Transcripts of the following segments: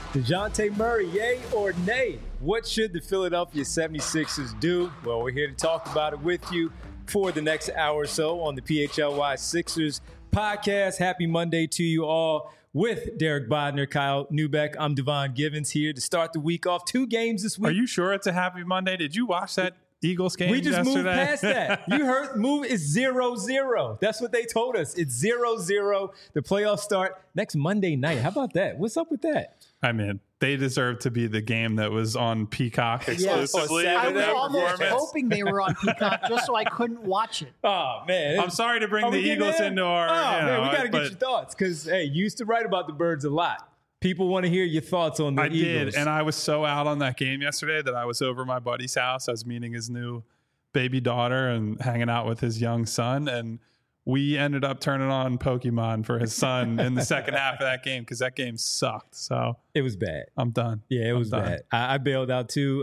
DeJounte Murray, yay or nay? What should the Philadelphia 76ers do? Well, we're here to talk about it with you for the next hour or so on the PHLY Sixers podcast. Happy Monday to you all with Derek Bodner, Kyle Neubeck. I'm Devon Givens here to start the week off. 2 games this week. Are you sure it's a happy Monday? Did you watch that Eagles game We just yesterday? moved past that. You heard move is 0-0. That's what they told us. It's 0-0. The playoffs start next Monday night. How about that? What's up with that? I mean, they deserve to be the game that was on Peacock exclusively. Yes. I was That almost hoping they were on Peacock just so I couldn't watch it. Oh, man. I'm sorry to bring Are the we getting Eagles there? into our. Man, we got to get your thoughts because, hey, you used to write about the Birds a lot. People want to hear your thoughts on the Eagles. I did, and I was so out on that game yesterday that I was over my buddy's house. I was meeting his new baby daughter and hanging out with his young son, and we ended up turning on Pokemon for his son in the second half of that game because that game sucked. So it was bad. I'm done. Yeah, it was done. bad. I bailed out too.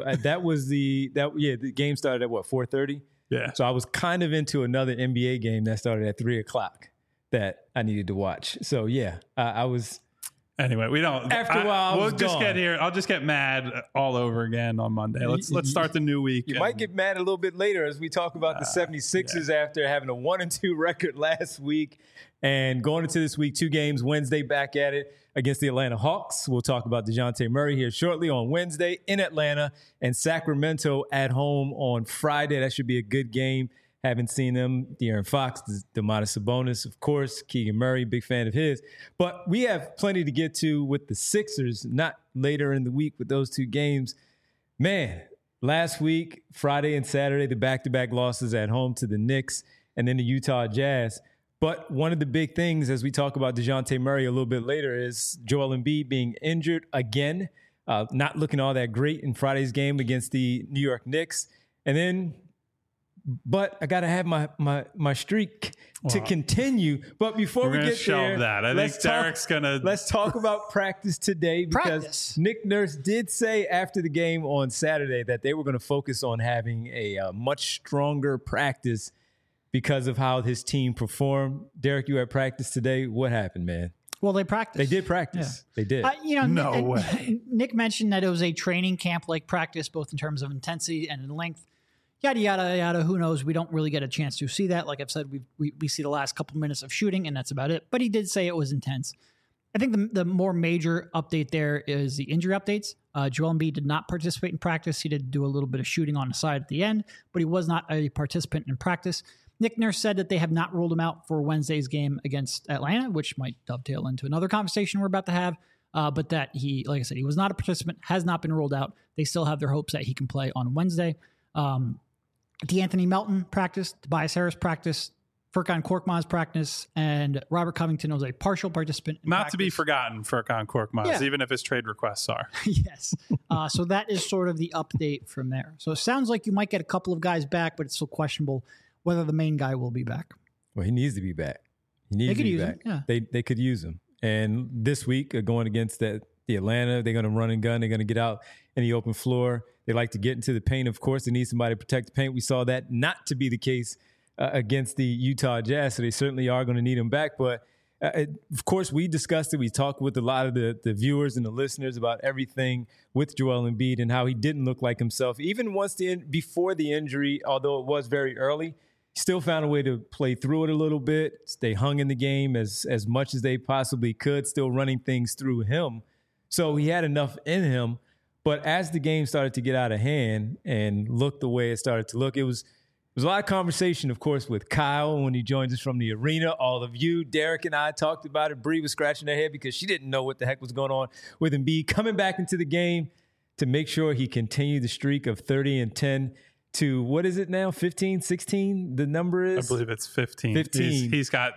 The game started at what, 4:30? Yeah. So I was kind of into another NBA game that started at 3:00 that I needed to watch. So yeah, I was. Anyway, we don't. After a while, we'll just get here. I'll just get mad all over again on Monday. Let's start the new week. You might get mad a little bit later as we talk about the 76ers after having a 1-2 record last week and going into this week, 2 games. Wednesday back at it against the Atlanta Hawks. We'll talk about DeJounte Murray here shortly on Wednesday in Atlanta, and Sacramento at home on Friday. That should be a good game. Haven't seen them. De'Aaron Fox, Domantas Sabonis, of course. Keegan Murray, big fan of his. But we have plenty to get to with the Sixers, not later in the week with those 2 games. Man, last week, Friday and Saturday, the back-to-back losses at home to the Knicks and then the Utah Jazz. But one of the big things, as we talk about DeJounte Murray a little bit later, is Joel Embiid being injured again, not looking all that great in Friday's game against the New York Knicks. And then... But I got to have my streak to continue. But before we get there, I think Derek's going to... Let's talk about practice today because Nick Nurse did say after the game on Saturday that they were going to focus on having a much stronger practice because of how his team performed. Derek, you had practice today. What happened, man? Well, they practiced. They did practice. Yeah. They did. No way. Nick mentioned that it was a training camp-like practice, both in terms of intensity and in length. Yada, yada, yada, who knows? We don't really get a chance to see that. Like I've said, we see the last couple minutes of shooting, and that's about it. But he did say it was intense. I think the more major update there is the injury updates. Joel Embiid did not participate in practice. He did do a little bit of shooting on the side at the end, but he was not a participant in practice. Nick Nurse said that they have not ruled him out for Wednesday's game against Atlanta, which might dovetail into another conversation we're about to have. But that he, like I said, he was not a participant, has not been ruled out. They still have their hopes that he can play on Wednesday. D'Anthony Melton practiced, Tobias Harris practiced, Furkan Korkmaz practiced, and Robert Covington was a partial participant. Not to be forgotten, Furkan Korkmaz, even if his trade requests are. Yes. So that is sort of the update from there. So it sounds like you might get a couple of guys back, but it's still questionable whether the main guy will be back. Well, he needs to be back. He needs to be back. Him, yeah. They could use him. And this week, going against the Atlanta, they're going to run and gun. They're going to get out in the open floor. They like to get into the paint. Of course, they need somebody to protect the paint. We saw that not to be the case against the Utah Jazz, so they certainly are going to need him back. But, of course, we discussed it. We talked with a lot of the viewers and the listeners about everything with Joel Embiid and how he didn't look like himself. Even before the injury, although it was very early, he still found a way to play through it a little bit. They hung in the game as much as they possibly could, still running things through him. So he had enough in him. But as the game started to get out of hand and look the way it started to look, it was a lot of conversation, of course, with Kyle when he joined us from the arena. All of you, Derek and I talked about it. Bree was scratching her head because she didn't know what the heck was going on with Embiid coming back into the game to make sure he continued the streak of 30 and 10 to, what is it now, 15, 16? The number is? I believe it's 15. 15. He's got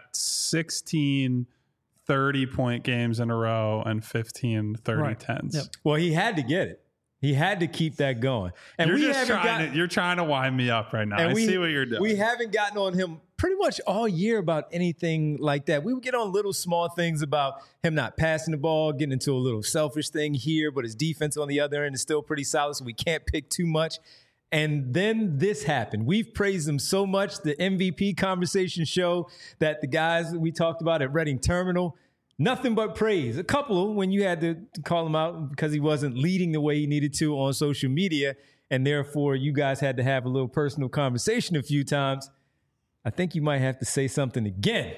16 30-point games in a row and 15 30-10s. Yep. Well, he had to get it. He had to keep that going. And you're trying to wind me up right now. I see what you're doing. We haven't gotten on him pretty much all year about anything like that. We would get on little small things about him not passing the ball, getting into a little selfish thing here, but his defense on the other end is still pretty solid, so we can't pick too much. And then this happened. We've praised him so much. The MVP conversation show that the guys that we talked about at Reading Terminal, nothing but praise. A couple when you had to call him out because he wasn't leading the way he needed to on social media, and therefore you guys had to have a little personal conversation a few times. I think you might have to say something again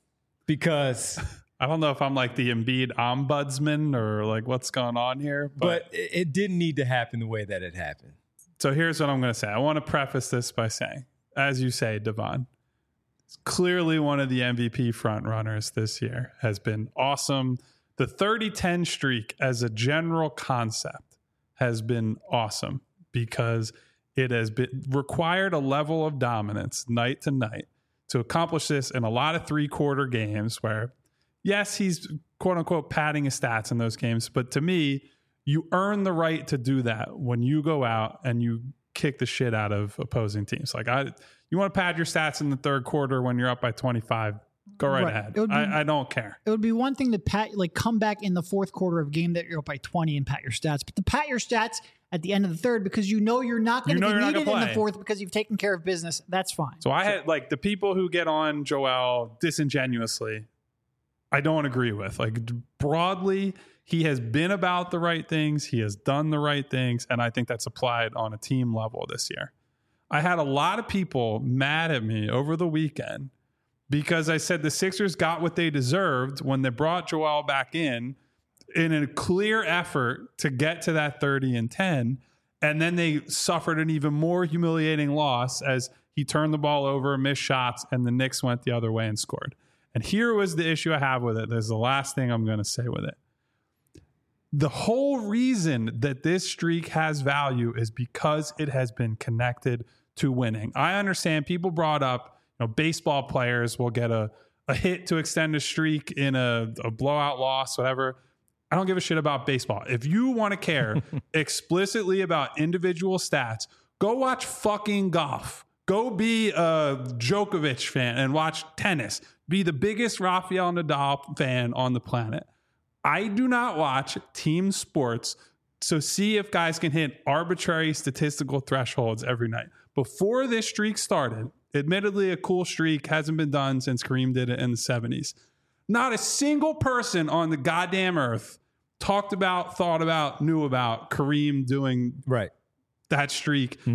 because I don't know if I'm like the Embiid ombudsman or like what's going on here, but it didn't need to happen the way that it happened. So here's what I'm going to say. I want to preface this by saying, as you say, Devon, clearly one of the MVP front runners this year, has been awesome. The 30-10 streak as a general concept has been awesome because it has been required a level of dominance night to night to accomplish this in a lot of 3-quarter games where, yes, he's quote unquote padding his stats in those games. But to me, you earn the right to do that when you go out and you kick the shit out of opposing teams. Like you want to pad your stats in the third quarter when you're up by 25, go right ahead. I don't care. It would be one thing to come back in the fourth quarter of a game that you're up by 20 and pat your stats, but to pat your stats at the end of the third because you know you're not going to be needed in the fourth because you've taken care of business, that's fine. So I had like the people who get on Joel disingenuously, I don't agree with. Like broadly, he has been about the right things. He has done the right things. And I think that's applied on a team level this year. I had a lot of people mad at me over the weekend because I said the Sixers got what they deserved when they brought Joel back in a clear effort to get to that 30-10. And then they suffered an even more humiliating loss as he turned the ball over, missed shots, and the Knicks went the other way and scored. And here was the issue I have with it. There's the last thing I'm going to say with it. The whole reason that this streak has value is because it has been connected to winning. I understand people brought up, baseball players will get a hit to extend a streak in a blowout loss, whatever. I don't give a shit about baseball. If you want to care explicitly about individual stats, go watch fucking golf. Go be a Djokovic fan and watch tennis. Be the biggest Rafael Nadal fan on the planet. I do not watch team sports to see if guys can hit arbitrary statistical thresholds every night. Before this streak started, admittedly a cool streak, hasn't been done since Kareem did it in the 70s. Not a single person on the goddamn earth talked about, thought about, knew about Kareem doing that streak in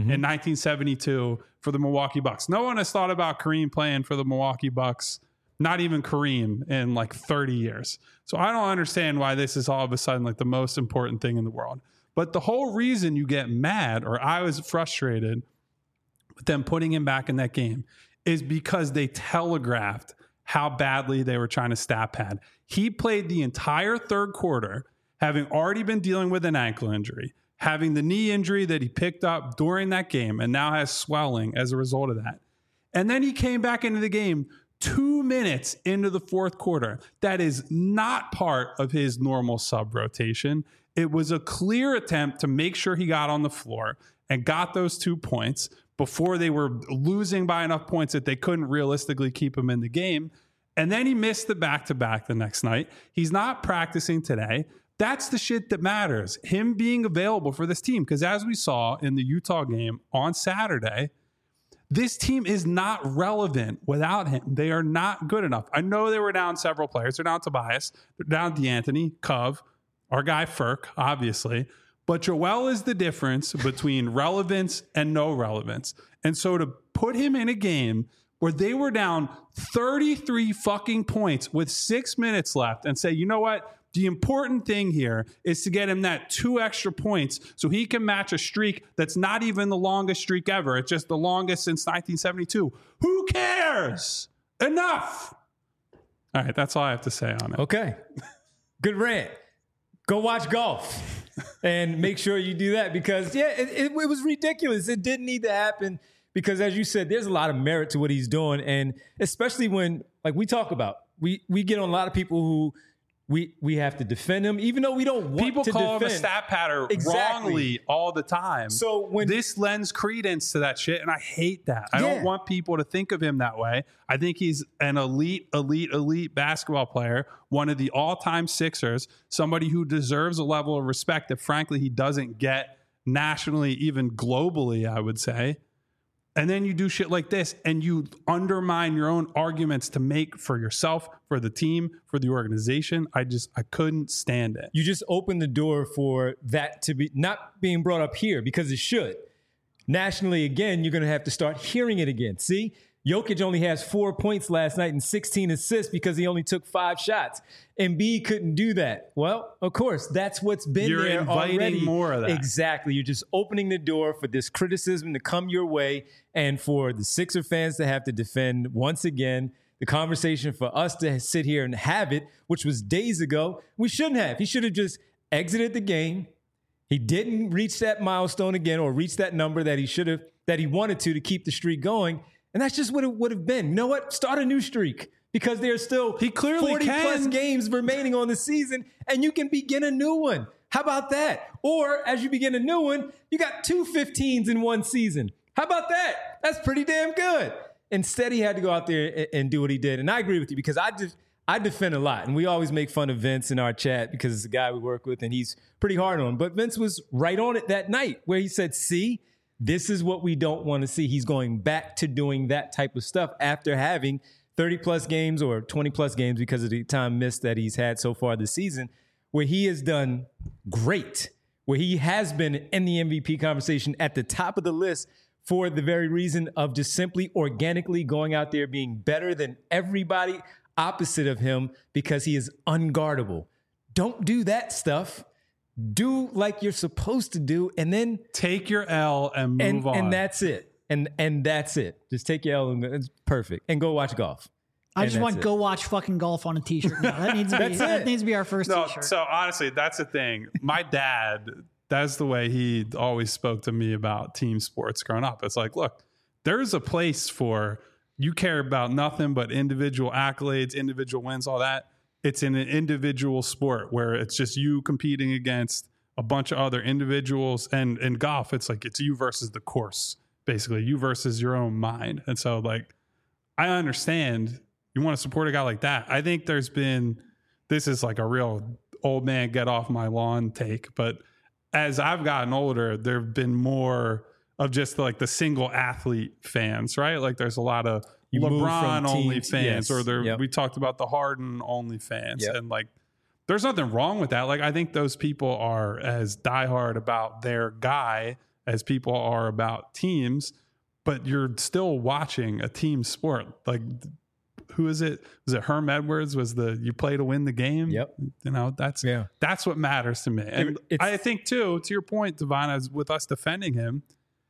1972 for the Milwaukee Bucks. No one has thought about Kareem playing for the Milwaukee Bucks, not even Kareem, in like 30 years. So I don't understand why this is all of a sudden like the most important thing in the world. But the whole reason you get mad, or I was frustrated with them putting him back in that game, is because they telegraphed how badly they were trying to stat pad. He played the entire third quarter, having already been dealing with an ankle injury, having the knee injury that he picked up during that game and now has swelling as a result of that. And then he came back into the game 2 minutes into the fourth quarter. That is not part of his normal sub rotation. It was a clear attempt to make sure he got on the floor and got those 2 points before they were losing by enough points that they couldn't realistically keep him in the game. And then he missed the back-to-back the next night. He's not practicing today. That's the shit that matters. Him being available for this team. Because as we saw in the Utah game on Saturday, this team is not relevant without him. They are not good enough. I know they were down several players. They're down Tobias. They're down D'Anthony, Cove, our guy Furk, obviously. But Joel is the difference between relevance and no relevance. And so to put him in a game where they were down 33 fucking points with 6 minutes left and say, you know what? The important thing here is to get him that 2 extra points so he can match a streak that's not even the longest streak ever. It's just the longest since 1972. Who cares? Enough. All right, that's all I have to say on it. Okay. Good rant. Go watch golf and make sure you do that because, it was ridiculous. It didn't need to happen because, as you said, there's a lot of merit to what he's doing. And especially when, like we talk about, we get on a lot of people who we have to defend him, even though we don't want people to call defend. him a stat patter wrongly all the time. So when this lends credence to that shit, and I hate that. I don't want people to think of him that way. I think he's an elite basketball player, one of the all-time Sixers, somebody who deserves a level of respect that, frankly, he doesn't get nationally, even globally, I would say. And then you do shit like this and you undermine your own arguments to make for yourself, for the team, for the organization. I couldn't stand it. You just open the door for that to be not being brought up here because it should. Nationally, again, you're going to have to start hearing it again. See, Jokic only has 4 points last night and 16 assists because he only took 5 shots. Embiid couldn't do that. Well, of course, that's what's been You're there inviting already. more of that. Exactly. You're just opening the door for this criticism to come your way and for the Sixer fans to have to defend once again. The conversation for us to sit here and have it, which was days ago, we shouldn't have. He should have just exited the game. He didn't reach that milestone again or reach that number that he wanted to keep the streak going. And that's just what it would have been. You know what? Start a new streak because there's still 40-plus games remaining on the season, and you can begin a new one. How about that? Or as you begin a new one, you got 2 15s in one season. How about that? That's pretty damn good. Instead, he had to go out there and do what he did. And I agree with you because I defend a lot. And we always make fun of Vince in our chat because it's a guy we work with, and he's pretty hard on him. But Vince was right on it that night where he said, see, this is what we don't want to see. He's going back to doing that type of stuff after having 30-plus games or 20-plus games because of the time missed that he's had so far this season, where he has done great, where he has been in the MVP conversation at the top of the list for the very reason of just simply organically going out there being better than everybody opposite of him because he is unguardable. Don't do that stuff. Do like you're supposed to do, and then take your L and move on. And that's it. And that's it. Just take your L and it's perfect. And go watch golf. I just want go watch fucking golf on a t-shirt now. That needs to be that needs to be our first t-shirt. So honestly, that's the thing. My dad, that's the way he always spoke to me about team sports growing up. It's like, look, there's a place for you care about nothing but individual accolades, individual wins, all that. It's in an individual sport where it's just you competing against a bunch of other individuals. And in golf, it's like it's you versus the course, basically, you versus your own mind. And so, like, I understand you want to support a guy like that. I think this is like a real old man get off my lawn take. But as I've gotten older, there have been more of just like the single athlete fans, right? Like there's a lot of LeBron only fans, or we talked about the Harden only fans. And like, there's nothing wrong with that. Like, I think those people are as diehard about their guy as people are about teams, but you're still watching a team sport. Like, who is it? Was it Herm Edwards? You play to win the game? Yep. You know, that's what matters to me. And I think too, to your point, Devon, as with us defending him,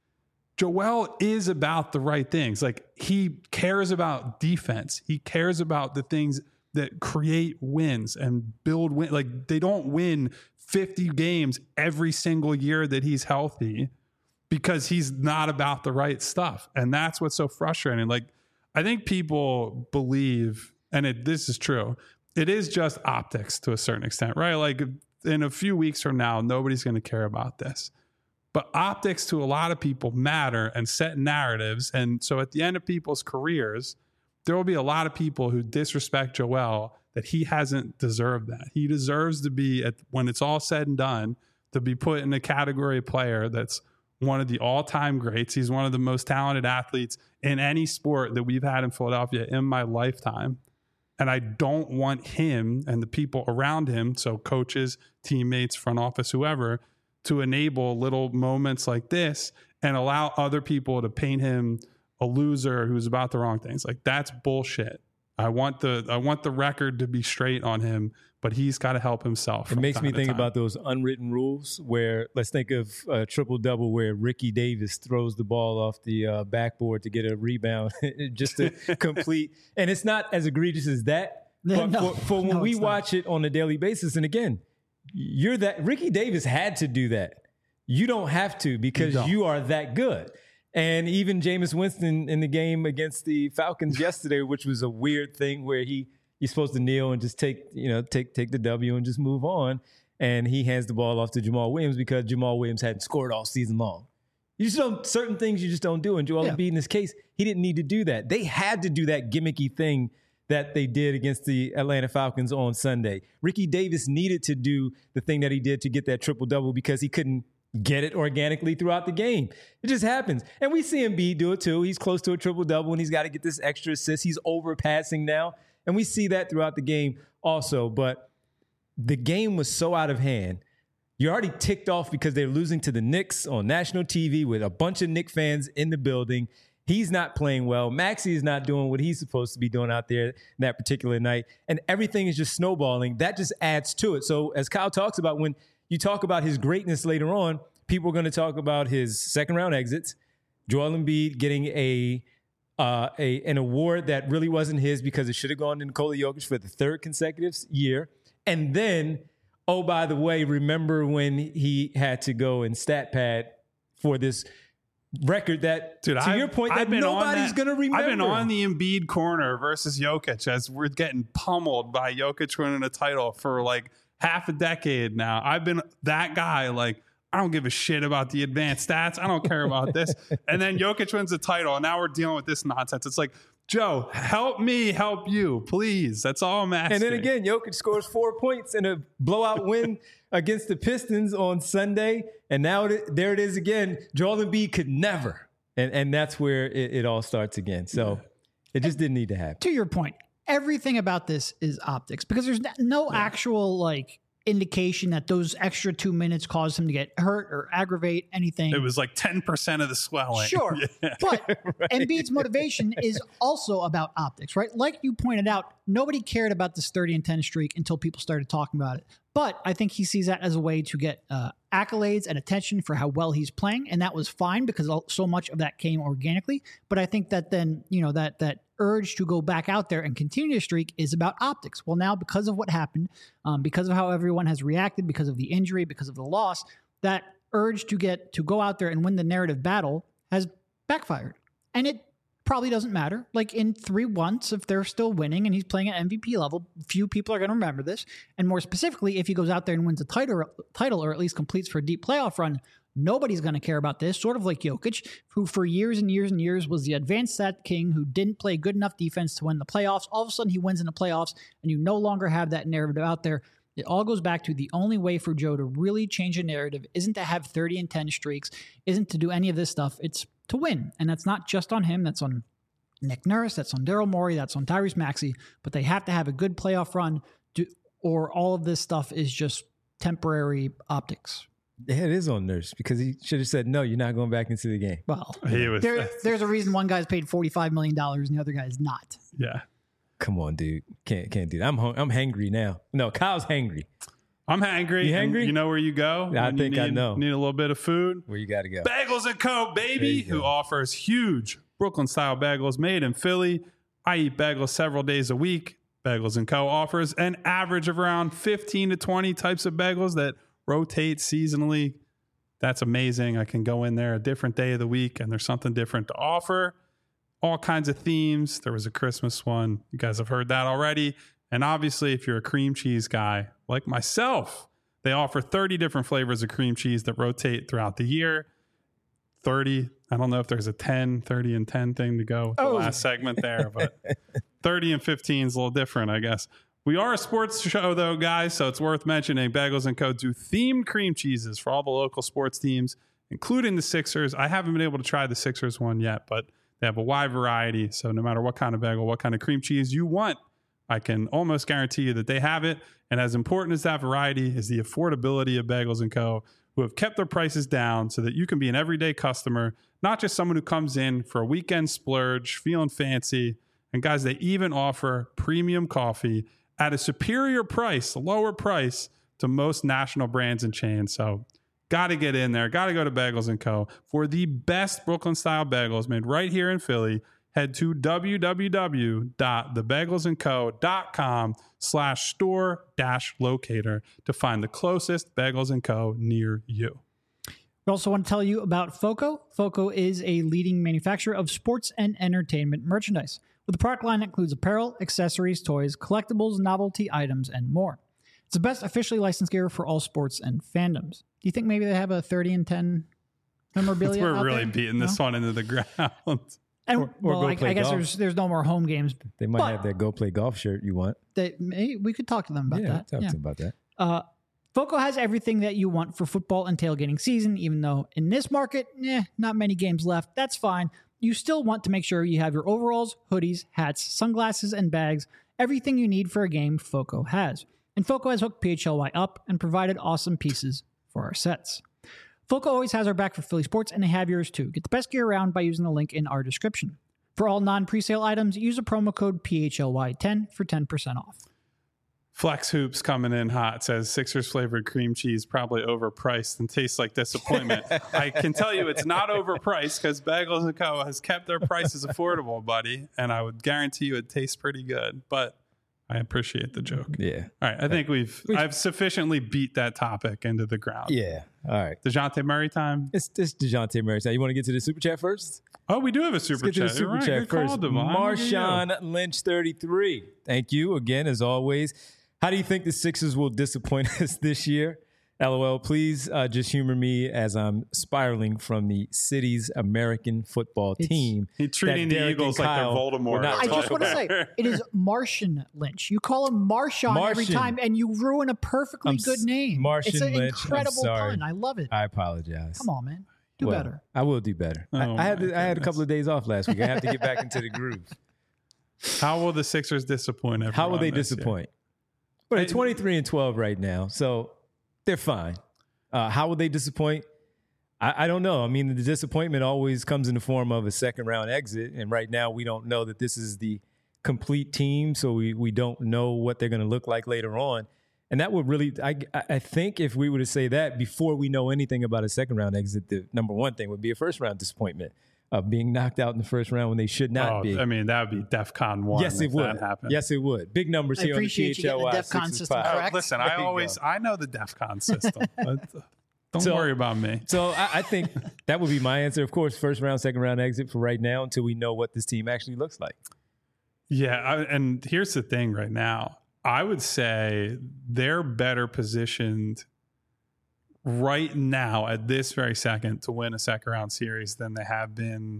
Joel is about the right things. Like, he cares about defense. He cares about the things that create wins and build win. Like, they don't win 50 games every single year that he's healthy because he's not about the right stuff. And that's what's so frustrating. Like, I think people believe, and this is true, it is just optics to a certain extent, right? Like, in a few weeks from now, nobody's going to care about this. But optics to a lot of people matter and set narratives. And so at the end of people's careers, there will be a lot of people who disrespect Joel that he hasn't deserved that. He deserves to be, when it's all said and done, to be put in a category of player that's one of the all-time greats. He's one of the most talented athletes in any sport that we've had in Philadelphia in my lifetime. And I don't want him and the people around him, so coaches, teammates, front office, whoever, to enable little moments like this and allow other people to paint him a loser who's about the wrong things. Like, that's bullshit. I want the record to be straight on him, but he's got to help himself. It makes me think about those unwritten rules where, let's think of a triple-double where Ricky Davis throws the ball off the backboard to get a rebound just to complete. And it's not as egregious as that. But for when we watch it on a daily basis, and again, Ricky Davis had to do that. You don't have to because you are that good. And even Jameis Winston in the game against the Falcons yesterday, which was a weird thing where you're supposed to kneel and just take the W and just move on. And he hands the ball off to Jamal Williams because Jamal Williams hadn't scored all season long. Certain things you just don't do. And Joel Embiid in this case, he didn't need to do that. They had to do that gimmicky thing that they did against the Atlanta Falcons on Sunday. Ricky Davis needed to do the thing that he did to get that triple-double because he couldn't get it organically throughout the game. It just happens. And we see Embiid do it too. He's close to a triple-double, and he's got to get this extra assist. He's overpassing now. And we see that throughout the game also. But the game was so out of hand. You're already ticked off because they're losing to the Knicks on national TV with a bunch of Knicks fans in the building. He's not playing well. Maxey is not doing what he's supposed to be doing out there that particular night. And everything is just snowballing. That just adds to it. So as Kyle talks about, when you talk about his greatness later on, people are going to talk about his second-round exits, Joel Embiid getting an award that really wasn't his because it should have gone to Nikola Jokic for the third consecutive year. And then, oh, by the way, remember when he had to go and stat pad for this record that, to your point, that nobody's going to remember. I've been on the Embiid corner versus Jokic as we're getting pummeled by Jokic winning a title for like half a decade now. I've been that guy, like, I don't give a shit about the advanced stats. I don't care about this. And then Jokic wins the title, and now we're dealing with this nonsense. It's like, Joe, help me help you, please. That's all I'm asking. And then again, Jokic scores 4 points in a blowout win against the Pistons on Sunday. And now there it is again. Joel Embiid could never. And that's where it all starts again. So it just didn't need to happen. To your point, everything about this is optics because there's no actual like indication that those extra 2 minutes caused him to get hurt or aggravate anything. It was like 10% of the swelling. Sure. Yeah. But right. Embiid's motivation is also about optics, right? Like you pointed out, nobody cared about this 30-10 streak until people started talking about it. But I think he sees that as a way to get accolades and attention for how well he's playing. And that was fine because so much of that came organically. But I think that then, that urge to go back out there and continue to streak is about optics. Well, now because of what happened, because of how everyone has reacted, because of the injury, because of the loss, that urge to go out there and win the narrative battle has backfired. And it probably doesn't matter. Like in 3 months, if they're still winning and he's playing at MVP level, few people are going to remember this. And more specifically, if he goes out there and wins a title or at least completes for a deep playoff run, nobody's going to care about this. Sort of like Jokic, who for years and years and years was the advanced stat king who didn't play good enough defense to win the playoffs. All of a sudden he wins in the playoffs and you no longer have that narrative out there. It all goes back to the only way for Joe to really change a narrative isn't to have 30-10 streaks, isn't to do any of this stuff. It's to win. And that's not just on him. That's on Nick Nurse. That's on Daryl Morey. That's on Tyrese Maxey. But they have to have a good playoff run or all of this stuff is just temporary optics. Yeah, it is on Nurse because he should have said, no, you're not going back into the game. Well, there's a reason one guy's paid $45 million and the other guy is not. Yeah. Come on, dude. Can't do that. I'm hangry now. No, Kyle's hangry. I'm hangry. You hangry? You know where you go? I think I know. Need a little bit of food? Where you got to go. Bagels & Co., baby, who offers huge Brooklyn-style bagels made in Philly. I eat bagels several days a week. Bagels & Co. offers an average of around 15 to 20 types of bagels that rotate seasonally. That's amazing. I can go in there a different day of the week and there's something different to offer. All kinds of themes. There was a Christmas one. You guys have heard that already. And obviously, if you're a cream cheese guy like myself, they offer 30 different flavors of cream cheese that rotate throughout the year. 30. I don't know if there's a 10, 30 and 10 thing to go with the last segment there, but 30 and 15 is a little different, I guess. We are a sports show, though, guys, so it's worth mentioning Bagels & Co. do themed cream cheeses for all the local sports teams, including the Sixers. I haven't been able to try the Sixers one yet, but they have a wide variety. So no matter what kind of bagel, what kind of cream cheese you want, I can almost guarantee you that they have it. And as important as that variety is the affordability of Bagels & Co., who have kept their prices down so that you can be an everyday customer, not just someone who comes in for a weekend splurge, feeling fancy. And guys, they even offer premium coffee at a superior price, a lower price to most national brands and chains. So got to get in there. Got to go to Bagels & Co. for the best Brooklyn-style bagels made right here in Philly. Head to www.thebagelsandco.com/store-locator to find the closest Bagels & Co. near you. We also want to tell you about FOCO. FOCO is a leading manufacturer of sports and entertainment merchandise with a product line that includes apparel, accessories, toys, collectibles, novelty items, and more. It's the best officially licensed gear for all sports and fandoms. Do you think maybe they have a 30-10 memorabilia We're out really there? beating this one into the ground. And I guess there's no more home games. They might have that Go Play Golf shirt you want. We could talk to them about that. Talk to them about that. Foco has everything that you want for football and tailgating season, even though in this market, not many games left. That's fine. You still want to make sure you have your overalls, hoodies, hats, sunglasses, and bags. Everything you need for a game, Foco has. And Foco has hooked PHLY up and provided awesome pieces for our sets. Foco always has our back for Philly sports, and they have yours too. Get the best gear around by using the link in our description. For all non-presale items, use a promo code PHLY10 for 10% off. Flex Hoops coming in hot says Sixers flavored cream cheese probably overpriced and tastes like disappointment. I can tell you it's not overpriced because Bagels & Co. has kept their prices affordable, buddy. And I would guarantee you it tastes pretty good. But I appreciate the joke. Yeah. All right. I think I've sufficiently beat that topic into the ground. Yeah. All right. DeJounte Murray time. It's DeJounte Murray time. You want to get to the super chat first? Oh, we do have a super chat. Super chat first. Marshawn Lynch 33. Thank you again, as always. How do you think the Sixers will disappoint us this year? LOL, please just humor me as I'm spiraling from the city's American football team. He's treating the Eagles like they're Voldemort. I just want to say, it is Martian Lynch. You call him Marshawn every time, and you ruin a perfectly good name. Martian Lynch. It's an Lynch. incredible pun. I love it. I apologize. Come on, man. Do better. I will do better. I had a couple of days off last week. I have to get back into the groove. How will the Sixers disappoint everyone? How will they disappoint? But they're 23-12 right now, so they're fine. How will they disappoint? I don't know. I mean, the disappointment always comes in the form of a second-round exit, and right now we don't know that this is the complete team, so we don't know what they're going to look like later on. And that would really, I think if we were to say that before we know anything about a second-round exit, the number one thing would be a first-round disappointment of being knocked out in the first round when they should not be. I mean, that would be DEFCON 1. Yes, it would. Yes, it would. Big numbers here on the PHLY. The DEFCON system correct. Listen, I know the DEFCON system. Don't worry about me. So I think that would be my answer. Of course, first round, second round exit for right now until we know what this team actually looks like. Yeah, and here's the thing right now. I would say they're better positioned right now at this very second to win a second round series than they have been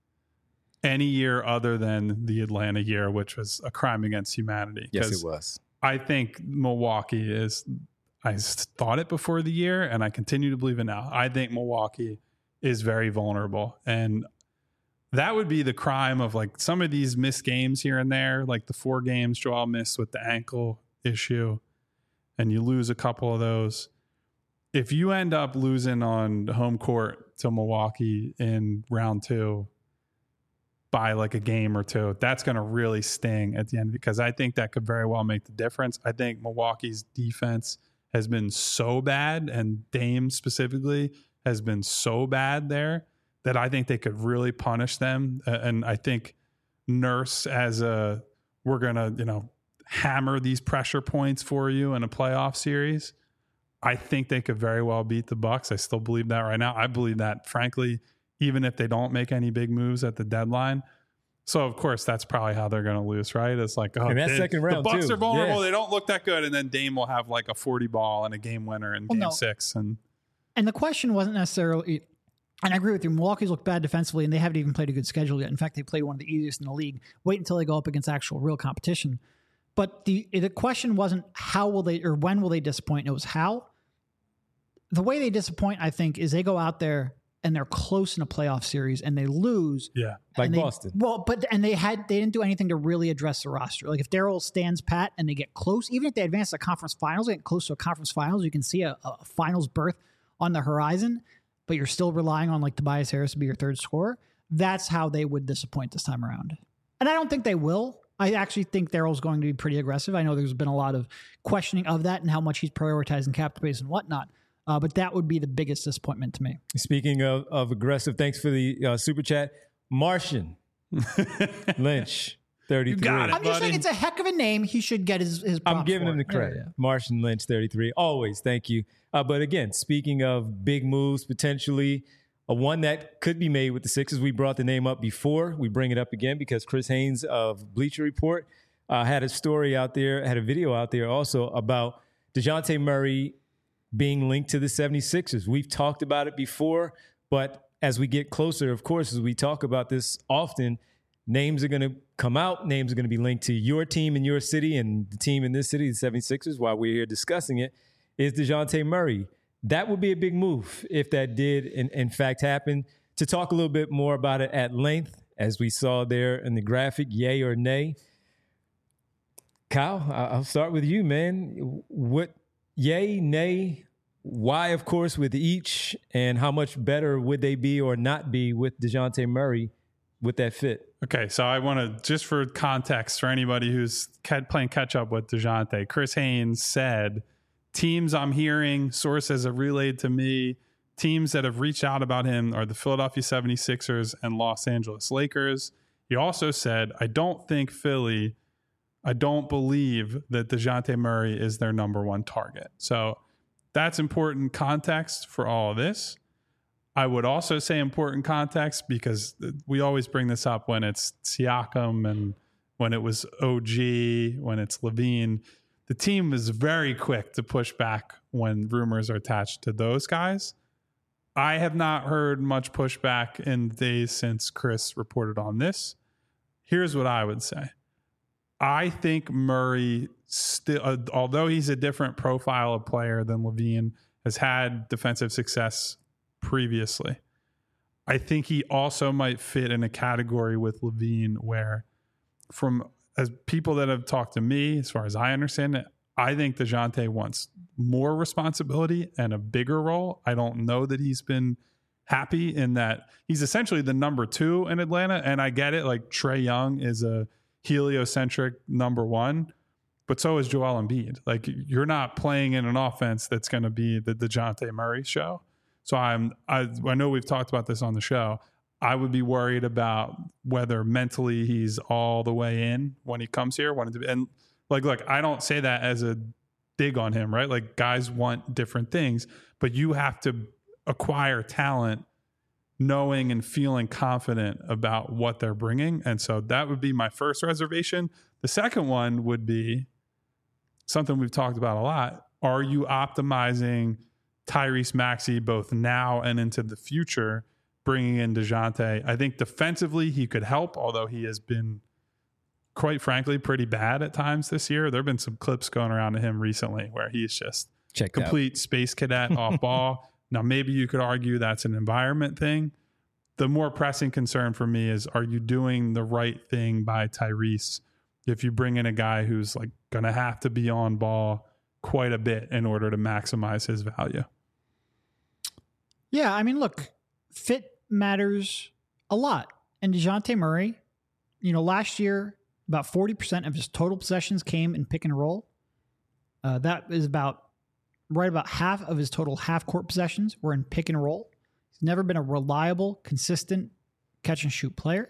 any year other than the Atlanta year, which was a crime against humanity. Yes, it was. I think Milwaukee is, I thought it before the year and I continue to believe it now. I think Milwaukee is very vulnerable, and that would be the crime of like some of these missed games here and there, like the 4 games Joel missed with the ankle issue, and you lose a couple of those. If you end up losing on home court to Milwaukee in round 2 by like a game or 2, that's going to really sting at the end, because I think that could very well make the difference. I think Milwaukee's defense has been so bad, and Dame specifically has been so bad there, that I think they could really punish them. And I think Nurse we're going to, hammer these pressure points for you in a playoff series. I think they could very well beat the Bucks. I still believe that right now. I believe that, frankly, even if they don't make any big moves at the deadline. So, of course, that's probably how they're going to lose, right? It's like, second round, the Bucks too. are vulnerable. Yeah. They don't look that good. And then Dame will have like a 40 ball and a game winner in game 6. And the question wasn't necessarily, and I agree with you, Milwaukee's looked bad defensively, and they haven't even played a good schedule yet. In fact, they played one of the easiest in the league. Wait until they go up against actual real competition. But the question wasn't how will they or when will they disappoint. It was how. The way they disappoint, I think, is they go out there and they're close in a playoff series and they lose. Yeah, like Boston. They didn't do anything to really address the roster. Like if Daryl stands pat and they get close, even if they advance to conference finals, they get close to a conference finals, you can see a finals berth on the horizon, but you're still relying on like Tobias Harris to be your third scorer. That's how they would disappoint this time around. And I don't think they will. I actually think Daryl's going to be pretty aggressive. I know there's been a lot of questioning of that and how much he's prioritizing cap space and whatnot. But that would be the biggest disappointment to me. Speaking of aggressive, thanks for the super chat. Martian Lynch, 33. You got it, I'm just saying it's a heck of a name. He should get his props. I'm giving him the credit. Yeah. Martian Lynch, 33. Always, thank you. But again, speaking of big moves, potentially one that could be made with the Sixers. We brought the name up before. We bring it up again because Chris Haynes of Bleacher Report had a story out there, had a video out there also about DeJounte Murray being linked to the 76ers. We've talked about it before, but as we get closer, of course, as we talk about this often, names are going to come out. Names are going to be linked to your team in your city and the team in this city, the 76ers, while we're here discussing it. is DeJounte Murray. That would be a big move if that did in fact happen. To talk a little bit more about it at length, as we saw there in the graphic, yay or nay. Kyle, I'll start with you, man. What, yay, nay, why, of course, with each, and how much better would they be or not be with DeJounte Murray with that fit? Okay, so I want to, just for context, for anybody who's playing catch up with DeJounte, Chris Haynes said, teams I'm hearing, sources have relayed to me, teams that have reached out about him are the Philadelphia 76ers and Los Angeles Lakers. He also said, I don't believe that DeJounte Murray is their number one target. So that's important context for all of this. I would also say important context because we always bring this up when it's Siakam and when it was OG, when it's Levine. The team is very quick to push back when rumors are attached to those guys. I have not heard much pushback in the days since Chris reported on this. Here's what I would say. I think Murray still, although he's a different profile of player than Levine, has had defensive success previously. I think he also might fit in a category with Levine where, from as people that have talked to me, as far as I understand it, I think DeJounte wants more responsibility and a bigger role. I don't know that he's been happy in that. He's essentially the number 2 in Atlanta, and I get it. Like, Trae Young is a heliocentric number 1, but so is Joel Embiid. Like, you're not playing in an offense that's going to be the DeJounte Murray show. So I know we've talked about this on the show. I would be worried about whether mentally he's all the way in when he comes here. And look, I don't say that as a dig on him, right? Like, guys want different things, but you have to acquire talent knowing and feeling confident about what they're bringing. And so that would be my first reservation. The second one would be something we've talked about a lot. Are you optimizing Tyrese Maxey both now and into the future, bringing in DeJounte? I think defensively he could help, although he has been, quite frankly, pretty bad at times this year. There have been some clips going around to him recently where he's just complete space cadet off ball. Now, maybe you could argue that's an environment thing. The more pressing concern for me is, are you doing the right thing by Tyrese if you bring in a guy who's like going to have to be on ball quite a bit in order to maximize his value? Yeah, I mean, look, fit matters a lot. And DeJounte Murray, last year, about 40% of his total possessions came in pick and roll. That is about half of his total half-court possessions were in pick and roll. He's never been a reliable, consistent catch-and-shoot player.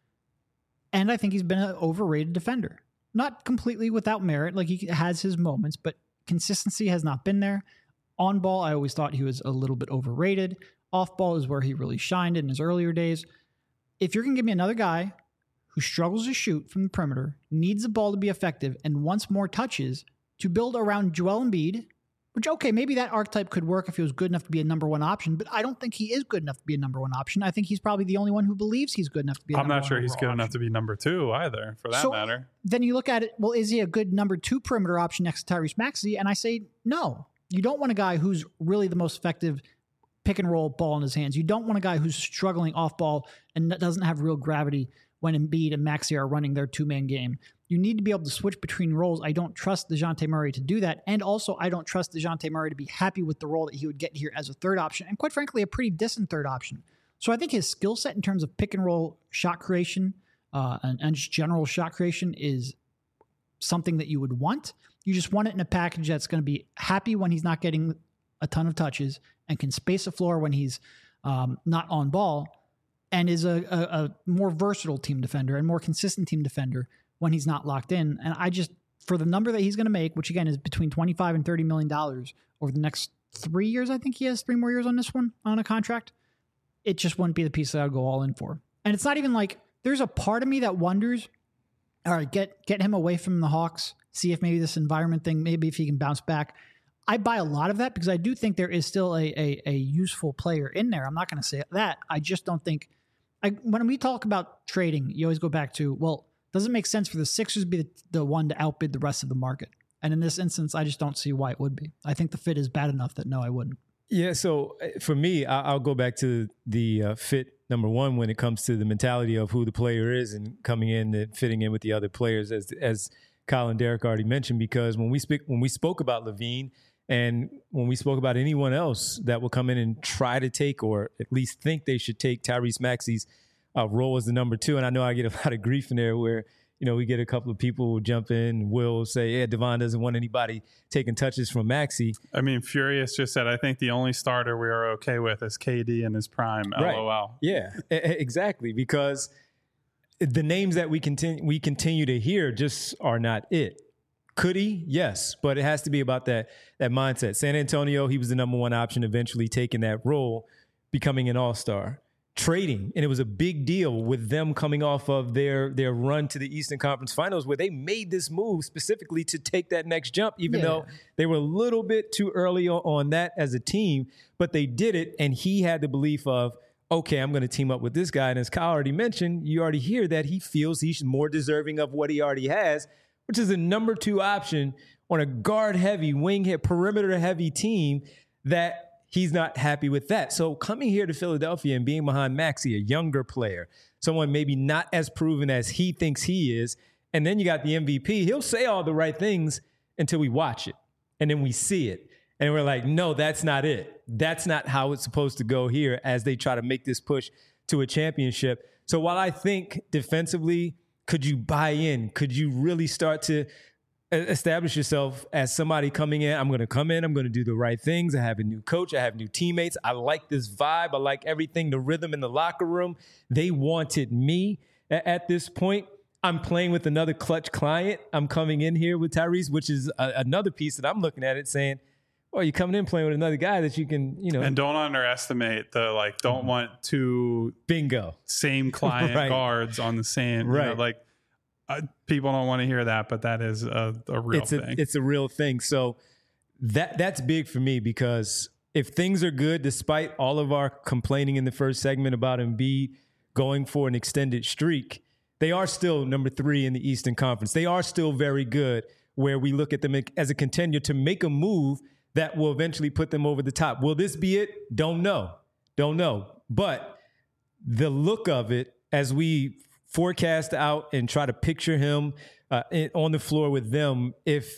And I think he's been an overrated defender. Not completely without merit. Like, he has his moments, but consistency has not been there. On ball, I always thought he was a little bit overrated. Off ball is where he really shined in his earlier days. If you're going to give me another guy who struggles to shoot from the perimeter, needs the ball to be effective, and wants more touches to build around Joel Embiid, which, okay, maybe that archetype could work if he was good enough to be a number 1 option, but I don't think he is good enough to be a number 1 option. I think he's probably the only one who believes he's good enough to be a number 1 I'm not sure he's good option. enough to be number 2 either, for that matter. Then you look at it, well, is he a good number 2 perimeter option next to Tyrese Maxey? And I say, no. You don't want a guy who's really the most effective pick and roll ball in his hands. You don't want a guy who's struggling off ball and doesn't have real gravity when Embiid and Maxey are running their 2-man game. You need to be able to switch between roles. I don't trust DeJounte Murray to do that. And also, I don't trust DeJounte Murray to be happy with the role that he would get here as a third option, and quite frankly, a pretty decent third option. So I think his skill set in terms of pick and roll shot creation and just general shot creation is something that you would want. You just want it in a package that's going to be happy when he's not getting a ton of touches and can space the floor when he's not on ball, and is a more versatile team defender and more consistent team defender when he's not locked in. And I just, for the number that he's going to make, which again is between $25 and $30 million over the next 3 years, I think he has 3 more years on this one on a contract, it just wouldn't be the piece that I'd go all in for. And it's not even like, there's a part of me that wonders, all right, get him away from the Hawks, see if maybe this environment thing, maybe if he can bounce back. I buy a lot of that because I do think there is still a useful player in there. I'm not going to say that. I just don't think, when we talk about trading, you always go back to, well, does it make sense for the Sixers to be the one to outbid the rest of the market? And in this instance, I just don't see why it would be. I think the fit is bad enough that no, I wouldn't. Yeah, so for me, I'll go back to the fit number one when it comes to the mentality of who the player is and coming in and fitting in with the other players, as Kyle and Derek already mentioned. Because when we spoke about LaVine and when we spoke about anyone else that will come in and try to take or at least think they should take Tyrese Maxey's role as the number two, and I know I get a lot of grief in there where we get a couple of people who jump in, will say, yeah, Devon doesn't want anybody taking touches from Maxey. I mean, Furious just said, I think the only starter we are okay with is KD in his prime, right. LOL. Yeah, exactly, because the names that we continue to hear just are not it. Could he? Yes, but it has to be about that mindset. San Antonio, he was the number one option, eventually taking that role, becoming an all-star. Trading, and it was a big deal with them coming off of their run to the Eastern Conference Finals where they made this move specifically to take that next jump, even though they were a little bit too early on that as a team, but they did it, and he had the belief of, okay, I'm going to team up with this guy, and as Kyle already mentioned, you already hear that he feels he's more deserving of what he already has, which is a number two option on a guard-heavy, perimeter-heavy team that he's not happy with that. So coming here to Philadelphia and being behind Maxey, a younger player, someone maybe not as proven as he thinks he is, and then you got the MVP, he'll say all the right things until we watch it. And then we see it. And we're like, no, that's not it. That's not how it's supposed to go here as they try to make this push to a championship. So while I think defensively, could you buy in? Could you really start to establish yourself as somebody coming in? I'm going to come in. I'm going to do the right things. I have a new coach. I have new teammates. I like this vibe. I like everything, the rhythm in the locker room. They wanted me at this point. I'm playing with another clutch client. I'm coming in here with Tyrese, which is another piece that I'm looking at it saying, well, you're coming in playing with another guy that you can, And don't underestimate don't want two same client right. guards on the same, right. People don't want to hear that, but that is a real thing. It's a real thing. So that's big for me because if things are good, despite all of our complaining in the first segment about Embiid going for an extended streak, they are still number 3 in the Eastern Conference. They are still very good where we look at them as a contender to make a move that will eventually put them over the top. Will this be it? Don't know. But the look of it as we forecast out and try to picture him on the floor with them, if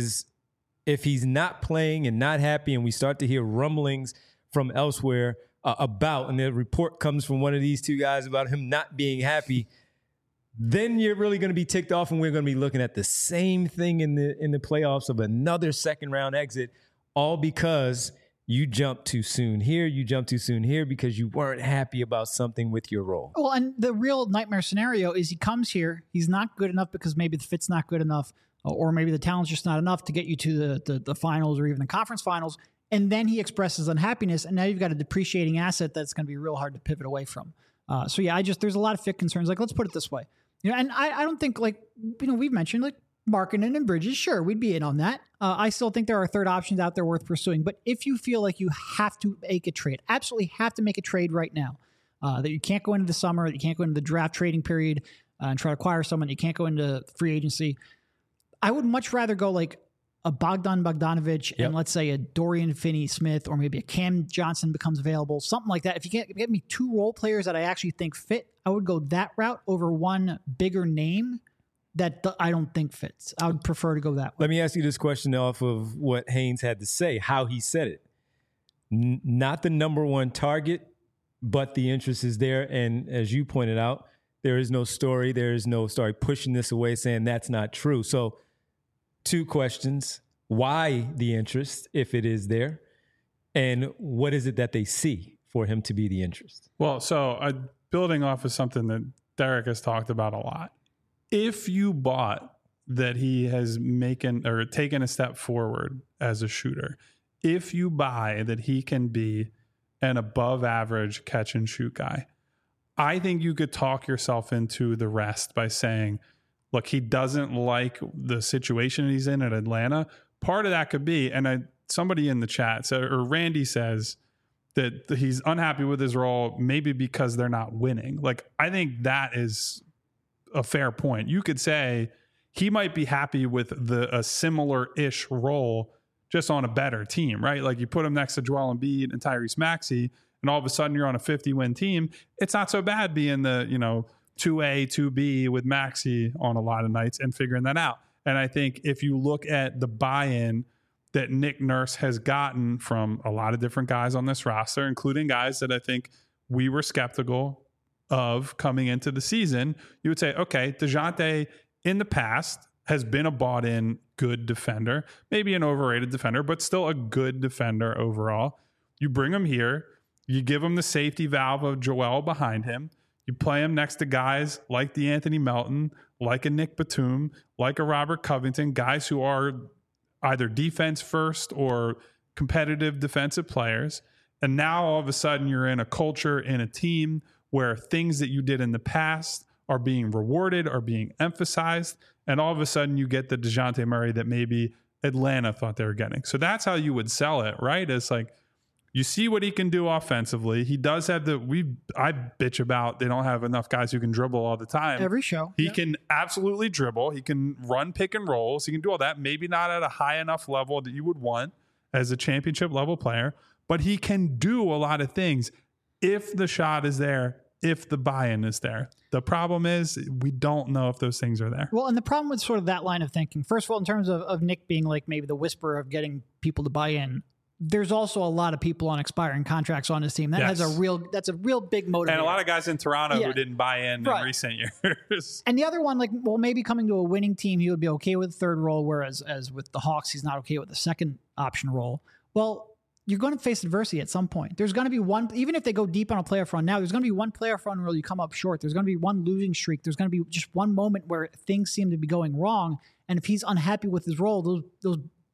he's not playing and not happy and we start to hear rumblings from elsewhere and the report comes from one of these two guys about him not being happy, then you're really going to be ticked off and we're going to be looking at the same thing in the playoffs of another second round exit, all because you jumped too soon here, because you weren't happy about something with your role. Well, and the real nightmare scenario is he comes here, he's not good enough because maybe the fit's not good enough, or maybe the talent's just not enough to get you to the finals or even the conference finals, and then he expresses unhappiness, and now you've got a depreciating asset that's going to be real hard to pivot away from. So yeah, there's a lot of fit concerns. Let's put it this way. And I don't think we've mentioned Markkanen and Bridges, sure, we'd be in on that. I still think there are third options out there worth pursuing. But if you feel like you have to make a trade, absolutely have to make a trade right now, that you can't go into the summer, that you can't go into the draft trading period and try to acquire someone, you can't go into free agency, I would much rather go a Bogdan Bogdanovic and let's say a Dorian Finney-Smith or maybe a Cam Johnson becomes available, something like that. If you can't get me 2 role players that I actually think fit, I would go that route over one bigger name that I don't think fits. I would prefer to go that way. Let me ask you this question off of what Haynes had to say, how he said it. Not the number one target, but the interest is there. And as you pointed out, there is no story. There is no story pushing this away, saying that's not true. So 2 questions. Why the interest, if it is there? And what is it that they see for him to be the interest? Well, so building off of something that Derek has talked about a lot. If you bought that he has taken a step forward as a shooter, if you buy that he can be an above average catch and shoot guy, I think you could talk yourself into the rest by saying, look, he doesn't like the situation he's in at Atlanta. Part of that could be, and somebody in the chat, or Randy says that he's unhappy with his role, maybe because they're not winning. I think that is a fair point. You could say he might be happy with a similar-ish role just on a better team, right? Like you put him next to Joel Embiid and Tyrese Maxey, and all of a sudden you're on a 50-win team. It's not so bad being the, 2A, 2B with Maxey on a lot of nights and figuring that out. And I think if you look at the buy-in that Nick Nurse has gotten from a lot of different guys on this roster, including guys that I think we were skeptical of coming into the season, you would say, okay, DeJounte in the past has been a bought-in good defender, maybe an overrated defender, but still a good defender overall. You bring him here, you give him the safety valve of Joel behind him, you play him next to guys like the Anthony Melton, like a Nick Batum, like a Robert Covington, guys who are either defense first or competitive defensive players. And now all of a sudden you're in a culture, in a team where things that you did in the past are being rewarded, are being emphasized. And all of a sudden you get the DeJounte Murray that maybe Atlanta thought they were getting. So that's how you would sell it, right? It's like, you see what he can do offensively. He does have I bitch about they don't have enough guys who can dribble all the time. Every show. He can absolutely dribble. He can run pick and rolls. He can do all that. Maybe not at a high enough level that you would want as a championship level player, but he can do a lot of things if the shot is there, if the buy-in is there. The problem is we don't know if those things are there. Well, and the problem with sort of that line of thinking, first of all, in terms of Nick being like maybe the whisperer of getting people to buy in, there's also a lot of people on expiring contracts on his team. That's a real big motivator. And a lot of guys in Toronto who didn't buy in recent years. And the other one, like, well, maybe coming to a winning team, he would be okay with the third role, whereas as with the Hawks, he's not okay with the second option role. Well, you're going to face adversity at some point. There's going to be one, even if they go deep on a playoff run now, there's going to be one playoff run where you come up short. There's going to be one losing streak. There's going to be just one moment where things seem to be going wrong. And if he's unhappy with his role, those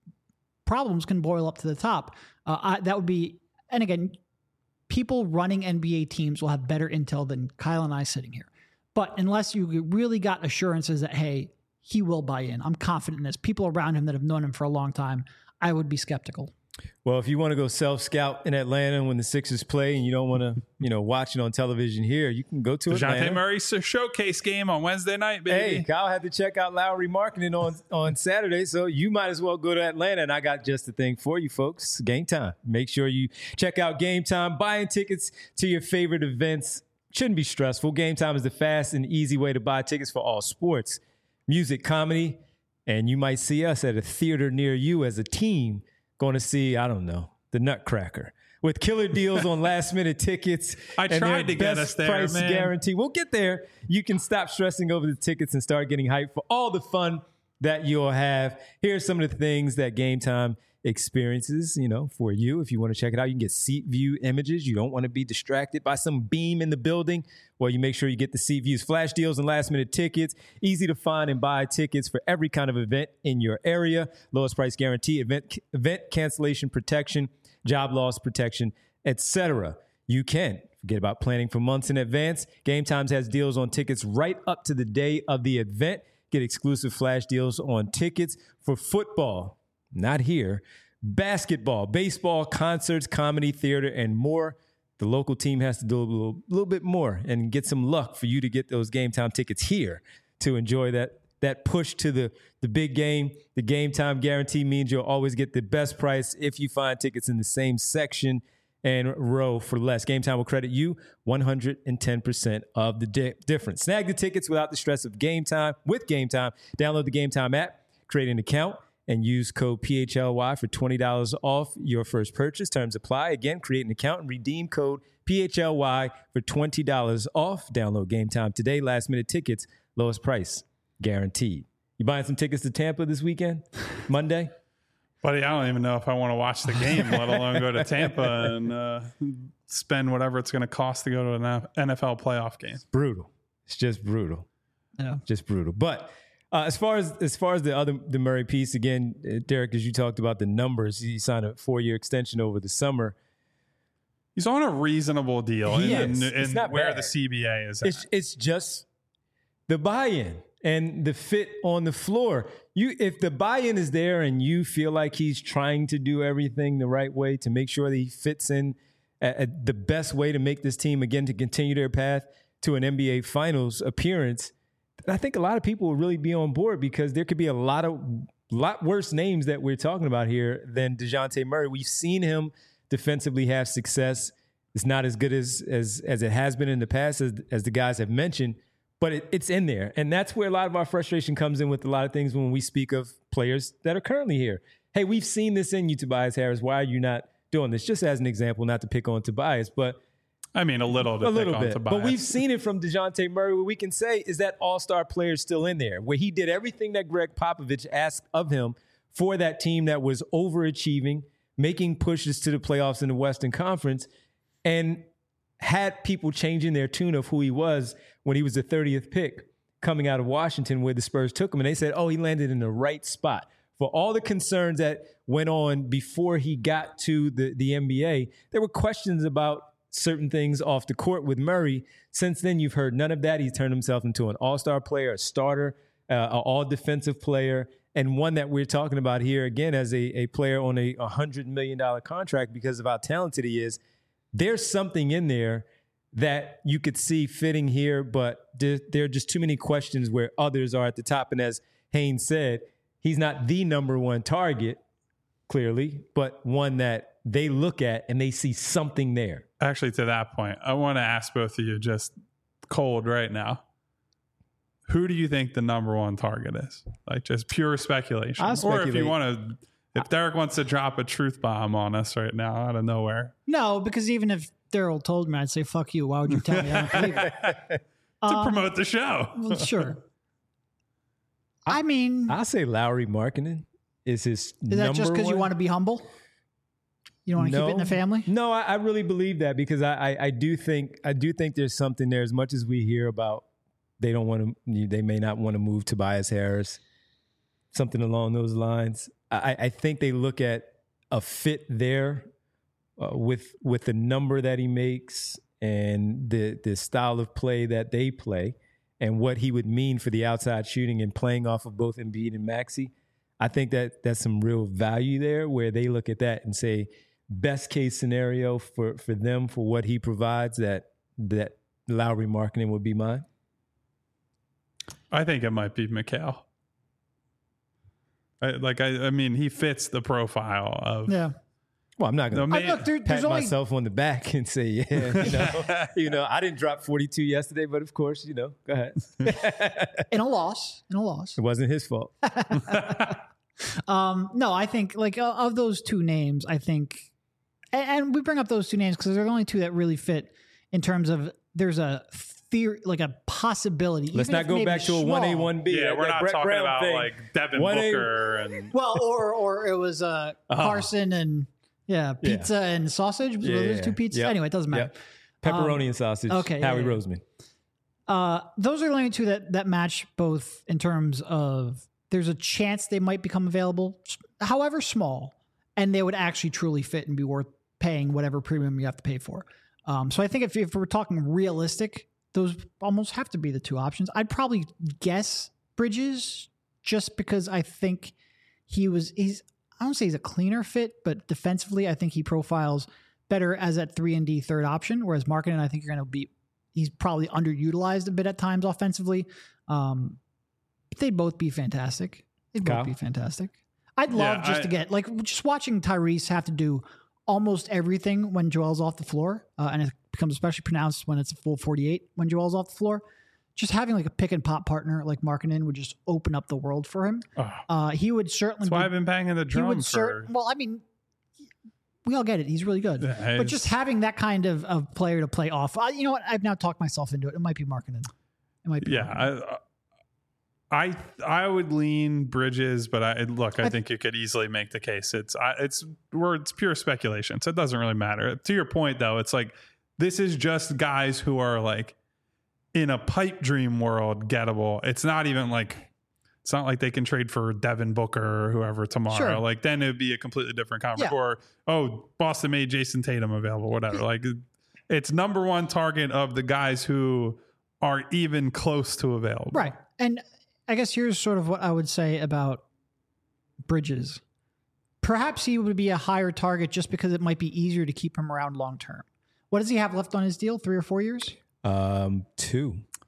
problems can boil up to the top. That would be, and again, people running NBA teams will have better intel than Kyle and I sitting here. But unless you really got assurances that, hey, he will buy in, I'm confident in this. People around him that have known him for a long time, I would be skeptical. Well, if you want to go self-scout in Atlanta when the Sixers play and you don't want to, watch it on television here, you can go to Atlanta. DeJounte Murray's showcase game on Wednesday night, baby. Hey, Kyle had to check out Lowry Marketing on Saturday, so you might as well go to Atlanta. And I got just the thing for you, folks. Game Time. Make sure you check out Game Time. Buying tickets to your favorite events shouldn't be stressful. Game Time is the fast and easy way to buy tickets for all sports, music, comedy, and you might see us at a theater near you as a team going to see, I don't know, the Nutcracker with killer deals on last-minute tickets. I tried to get us there, price man. Guarantee. We'll get there. You can stop stressing over the tickets and start getting hyped for all the fun that you'll have. Here's some of the things that Game Time experiences, for you. If you want to check it out, you can get seat view images. You don't want to be distracted by some beam in the building. Well, you make sure you get the seat views, flash deals, and last-minute tickets. Easy to find and buy tickets for every kind of event in your area. Lowest price guarantee, event cancellation protection, job loss protection, etc. You can forget about planning for months in advance. Game Times has deals on tickets right up to the day of the event. Get exclusive flash deals on tickets for football. Not here. Basketball, baseball, concerts, comedy, theater, and more. The local team has to do a little bit more and get some luck for you to get those Game Time tickets here to enjoy that push to the big game. The Game Time guarantee means you'll always get the best price if you find tickets in the same section and row for less. Game Time will credit you 110% of the difference. Snag the tickets without the stress of Game Time with Game Time. Download the Game Time app, create an account, and use code PHLY for $20 off your first purchase. Terms apply. Again, create an account and redeem code PHLY for $20 off. Download Game Time today. Last minute tickets, lowest price guaranteed. You buying some tickets to Tampa this weekend, Monday? Buddy, I don't even know if I want to watch the game, let alone go to Tampa and spend whatever it's going to cost to go to an NFL playoff game. It's brutal. It's just brutal. Yeah. Just brutal. But as far as the Murray piece, again, Derek, as you talked about the numbers, he signed a 4-year extension over the summer. He's on a reasonable deal in where bad. the CBA is at. It's just the buy-in and the fit on the floor. If the buy-in is there and you feel like he's trying to do everything the right way to make sure that he fits in at the best way to make this team, again, to continue their path to an NBA Finals appearance, And I think a lot of people will really be on board because there could be a lot worse names that we're talking about here than DeJounte Murray. We've seen him defensively have success. It's not as good as it has been in the past, as the guys have mentioned, but it's in there. And that's where a lot of our frustration comes in with a lot of things when we speak of players that are currently here. Hey, we've seen this in you, Tobias Harris. Why are you not doing this? Just as an example, not to pick on Tobias, but I mean, a little bit. But we've seen it from DeJounte Murray. What we can say is that all-star player is still in there, where he did everything that Greg Popovich asked of him for that team that was overachieving, making pushes to the playoffs in the Western Conference, and had people changing their tune of who he was when he was the 30th pick coming out of Washington, where the Spurs took him. And they said, oh, he landed in the right spot. For all the concerns that went on before he got to the NBA, there were questions about certain things off the court with Murray. Since then, you've heard none of that. He's turned himself into an all-star player, a starter, an all-defensive player, and one that we're talking about here, again, as a player on a $100 million contract because of how talented he is. There's something in there that you could see fitting here, but there are just too many questions where others are at the top. And as Haynes said, he's not the number one target, clearly, but one that they look at and they see something there. Actually, to that point, I want to ask both of you just cold right now. Who do you think the number one target is? Like just pure speculation. Or if you want to, if Derek wants to drop a truth bomb on us right now out of nowhere. No, because even if Daryl told me, I'd say, fuck you. Why would you tell me? I don't believe it. To promote the show. Well, sure. I mean, I'll say Lauri Markkanen is his number one. Is that just because you want to be humble? You don't want to keep it in the family? No, I really believe that because I do think there's something there. As much as we hear about they may not want to move Tobias Harris, something along those lines. I think they look at a fit there with the number that he makes and the style of play that they play and what he would mean for the outside shooting and playing off of both Embiid and Maxey. I think that that's some real value there where they look at that and say, best case scenario for them, for what he provides, that Lauri Markkanen would be mine. I think it might be Mikal. I mean, he fits the profile of. Yeah. Well, I'm not going to pat myself on the back and say, yeah, I didn't drop 42 yesterday, but of course, go ahead. In a loss. It wasn't his fault. No, I think of those two names, I think, and we bring up those two names because they're the only two that really fit in terms of there's a theory, like a possibility. Let's not go back to a 1A, 1B. Yeah, we're not Brett talking Brown about thing. like Devin Booker and or it was Carson and pizza and sausage. Was those two pizzas? Yep. Anyway, it doesn't matter. Yep. Pepperoni and sausage. Okay, Howie Roseman. Those are the only two that match both in terms of there's a chance they might become available, however small, and they would actually truly fit and be worth paying whatever premium you have to pay for. So I think if we're talking realistic, those almost have to be the two options. I'd probably guess Bridges just because I think I don't say he's a cleaner fit, but defensively, I think he profiles better as that 3-and-D third option, whereas Markkanen, I think he's probably underutilized a bit at times offensively. They'd both be fantastic. I'd love to get just watching Tyrese have to do almost everything when Joel's off the floor, and it becomes especially pronounced when it's a full 48 when Joel's off the floor. Just having like a pick and pop partner like Markkanen would just open up the world for him. He would certainly. That's why I've been banging the drum for. Well, I mean, we all get it. He's really good, but just having that kind of player to play off. You know what? I've now talked myself into it. It might be Markkanen. It might be. Yeah. I would lean Bridges, but I think you could easily make the case. It's pure speculation, so it doesn't really matter. To your point, though, it's like this is just guys who are like in a pipe dream world gettable. It's not like they can trade for Devin Booker or whoever tomorrow. Sure. Like then it would be a completely different conference. Yeah. Or Boston made Jason Tatum available, whatever. Like it's number one target of the guys who are even close to available. Right. And I guess here's sort of what I would say about Bridges. Perhaps he would be a higher target just because it might be easier to keep him around long term. What does he have left on his deal? 3 or 4 years? 2.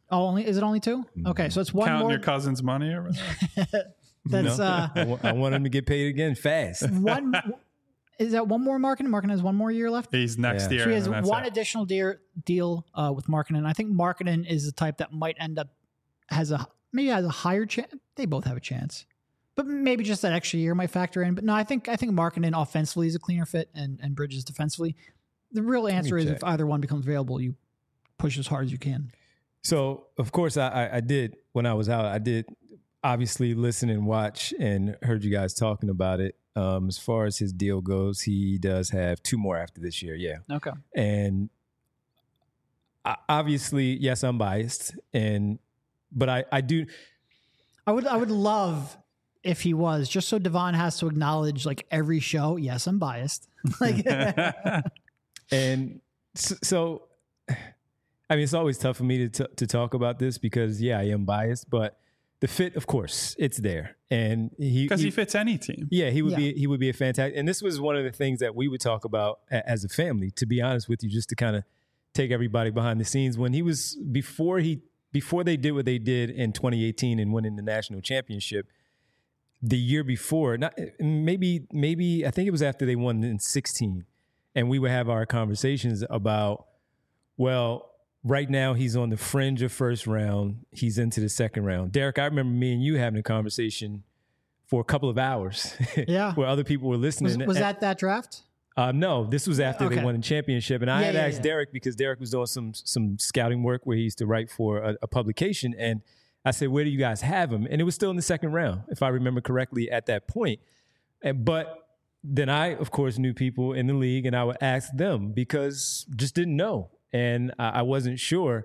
Oh, is it only 2? Okay, so it's one Counting more. your cousin's money over there. That's I want him to get paid again fast. one. Is that one more Markkanen? Markkanen has one more year left. He's next year. So he has and that's one it. additional deal with Markkanen. I think Markkanen is the type that might end up maybe has a higher chance. They both have a chance, but maybe just that extra year might factor in. But no, I think Markkanen offensively is a cleaner fit, and Bridges defensively. The real answer is if either one becomes available, you push as hard as you can. So of course I did when I was out. I did obviously listen and watch and heard you guys talking about it. As far as his deal goes, he does have 2 more after this year. Yeah. Okay. And obviously, yes, I'm biased, but I do. I would love if he was, just so Devon has to acknowledge like every show. Yes, I'm biased. Like, and so, I mean, it's always tough for me to talk about this because I am biased, but the fit, of course, it's there, and he fits any team. Yeah, he would be a fantastic. And this was one of the things that we would talk about as a family. To be honest with you, just to kind of take everybody behind the scenes, when he was before they did what they did in 2018 and winning the national championship. The year before, maybe I think it was after they won in 16, and we would have our conversations about, well, right now he's on the fringe of first round. He's into the second round. Derek, I remember me and you having a conversation for a couple of hours. Yeah. Where other people were listening. Was that draft? No, this was after they won the championship. And I had asked Derek, because Derek was doing some scouting work where he used to write for a publication. And I said, where do you guys have him? And it was still in the second round, if I remember correctly at that point. But then I, of course, knew people in the league, and I would ask them because just didn't know. And I wasn't sure.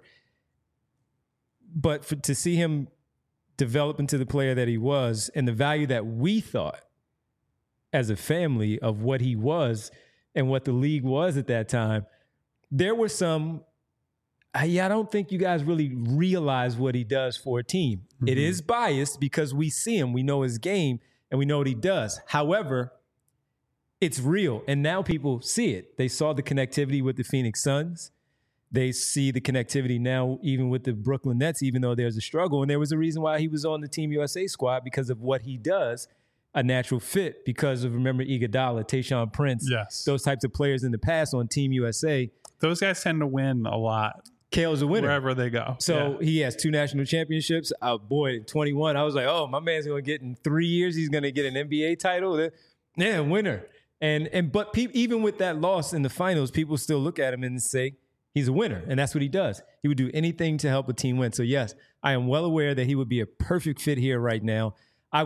But to see him develop into the player that he was, and the value that we thought as a family of what he was and what the league was at that time, there were some, I don't think you guys really realize what he does for a team. Mm-hmm. It is biased because we see him, we know his game, and we know what he does. However, it's real. And now people see it. They saw the connectivity with the Phoenix Suns. They see the connectivity now even with the Brooklyn Nets, even though there's a struggle. And there was a reason why he was on the Team USA squad, because of what he does, a natural fit because of, remember, Iguodala, Tayshaun Prince, those types of players in the past on Team USA. Those guys tend to win a lot. Kale's a winner. Wherever they go. So he has 2 national championships. Boy, 21, I was like, oh, my man's going to get in 3 years, he's going to get an NBA title. Yeah, winner. But even with that loss in the finals, people still look at him and say, he's a winner, and that's what he does. He would do anything to help a team win. So, yes, I am well aware that he would be a perfect fit here right now. I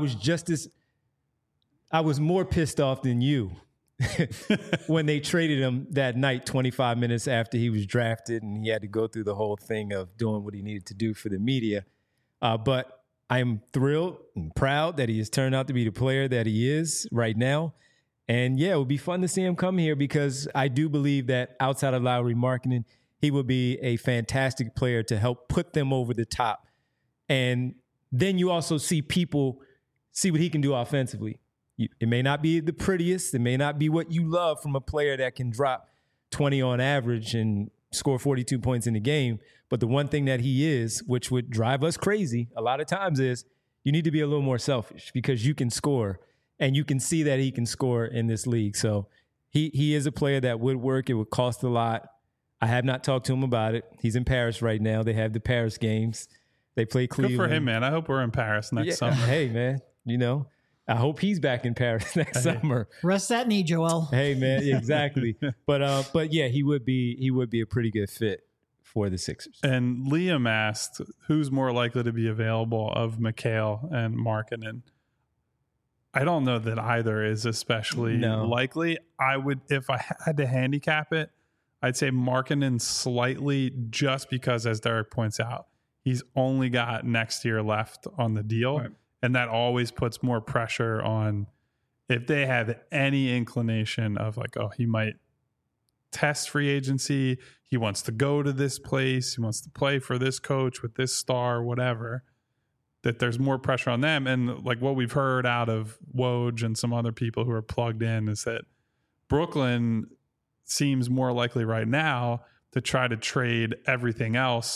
was more pissed off than you when they traded him that night, 25 minutes after he was drafted, and he had to go through the whole thing of doing what he needed to do for the media. But I'm thrilled and proud that he has turned out to be the player that he is right now. And yeah, it would be fun to see him come here, because I do believe that outside of Lauri Markkanen, he would be a fantastic player to help put them over the top. And then you also see people see what he can do offensively. It may not be the prettiest. It may not be what you love from a player that can drop 20 on average and score 42 points in a game. But the one thing that he is, which would drive us crazy a lot of times, is you need to be a little more selfish, because you can score. And you can see that he can score in this league. So he is a player that would work. It would cost a lot. I have not talked to him about it. He's in Paris right now. They have the Paris games. They play Cleveland. Good for him, man. I hope we're in Paris next summer. Hey, man, I hope he's back in Paris next summer. Rest that knee, Joel. Hey, man, exactly. But yeah, he would be a pretty good fit for the Sixers. And Liam asked, who's more likely to be available of Mikal and Markkanen? I don't know that either is especially likely. I would, if I had to handicap it, I'd say Markkanen slightly, just because, as Derek points out, he's only got next year left on the deal. Right. And that always puts more pressure on, if they have any inclination of like, oh, he might test free agency, he wants to go to this place, he wants to play for this coach with this star, whatever, that there's more pressure on them. And like what we've heard out of Woj and some other people who are plugged in is that Brooklyn seems more likely right now to try to trade everything else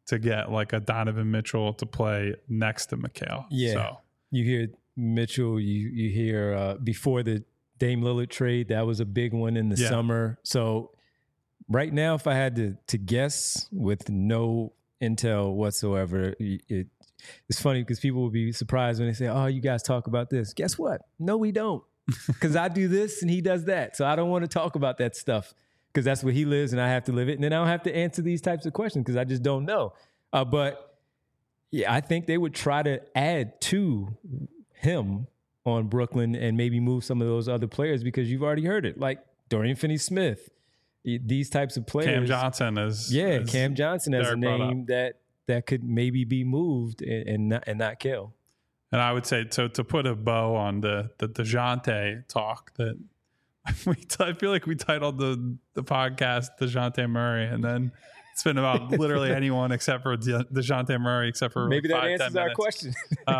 to get like a Donovan Mitchell to play next to Mikal. Yeah. So You hear Mitchell, you hear before the Dame Lillard trade, that was a big one in the summer. So right now, if I had to guess with no intel whatsoever, it's funny because people will be surprised when they say, oh, you guys talk about this. Guess what? No, we don't. Because I do this and he does that. So I don't want to talk about that stuff because that's where he lives and I have to live it. And then I don't have to answer these types of questions because I just don't know. But yeah, I think they would try to add to him on Brooklyn and maybe move some of those other players because you've already heard it, like Dorian Finney-Smith, these types of players. Cam Johnson is Cam Johnson as a name that could maybe be moved and not kill. And I would say to put a bow on the DeJounte talk that I feel like we titled the podcast DeJounte Murray, and then it's been about literally anyone except for DeJounte Murray, except for maybe that 5-10 answers our minutes. question.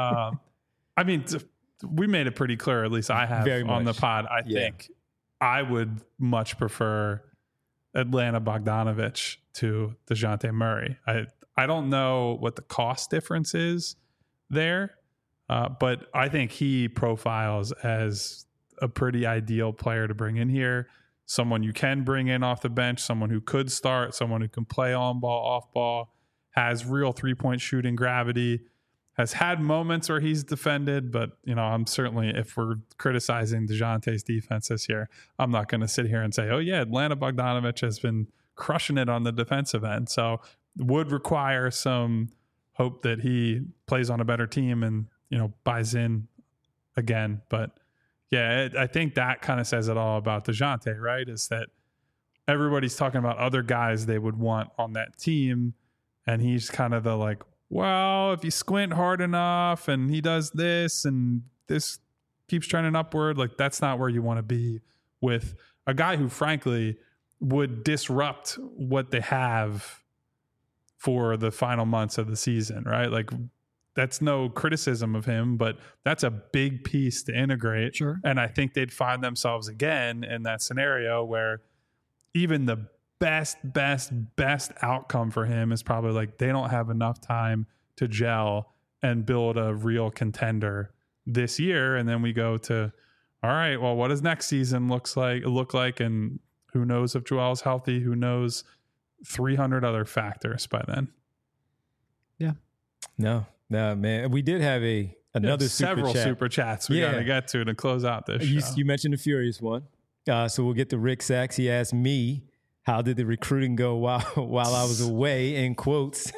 I mean, we made it pretty clear, at least I have on the pod. I think I would much prefer Atlanta Bogdanovich to DeJounte Murray. I don't know what the cost difference is there, but I think he profiles as a pretty ideal player to bring in here. Someone you can bring in off the bench, someone who could start, someone who can play on ball, off ball, has real 3-point shooting gravity, has had moments where he's defended, but I'm certainly, if we're criticizing DeJounte's defense this year, I'm not going to sit here and say, oh yeah, Atlanta Bogdanovich has been crushing it on the defensive end. So would require some hope that he plays on a better team and, buys in again. But yeah, I think that kind of says it all about DeJounte, right? Is that everybody's talking about other guys they would want on that team. And he's kind of the like, well, if you squint hard enough and he does this and this keeps trending upward, like that's not where you want to be with a guy who frankly would disrupt what they have for the final months of the season, right? Like that's no criticism of him, but that's a big piece to integrate. Sure. And I think they'd find themselves again in that scenario where even the best outcome for him is probably like they don't have enough time to gel and build a real contender this year. And then we go to, all right, well, what does next season look like? And who knows if Joel's healthy? Who knows 300 other factors by then? Yeah. No, man. We did have another several super chats we got to get to close out this show. You mentioned the Furious one. So we'll get to Rick Sachs. He asked me, how did the recruiting go while I was away, in quotes?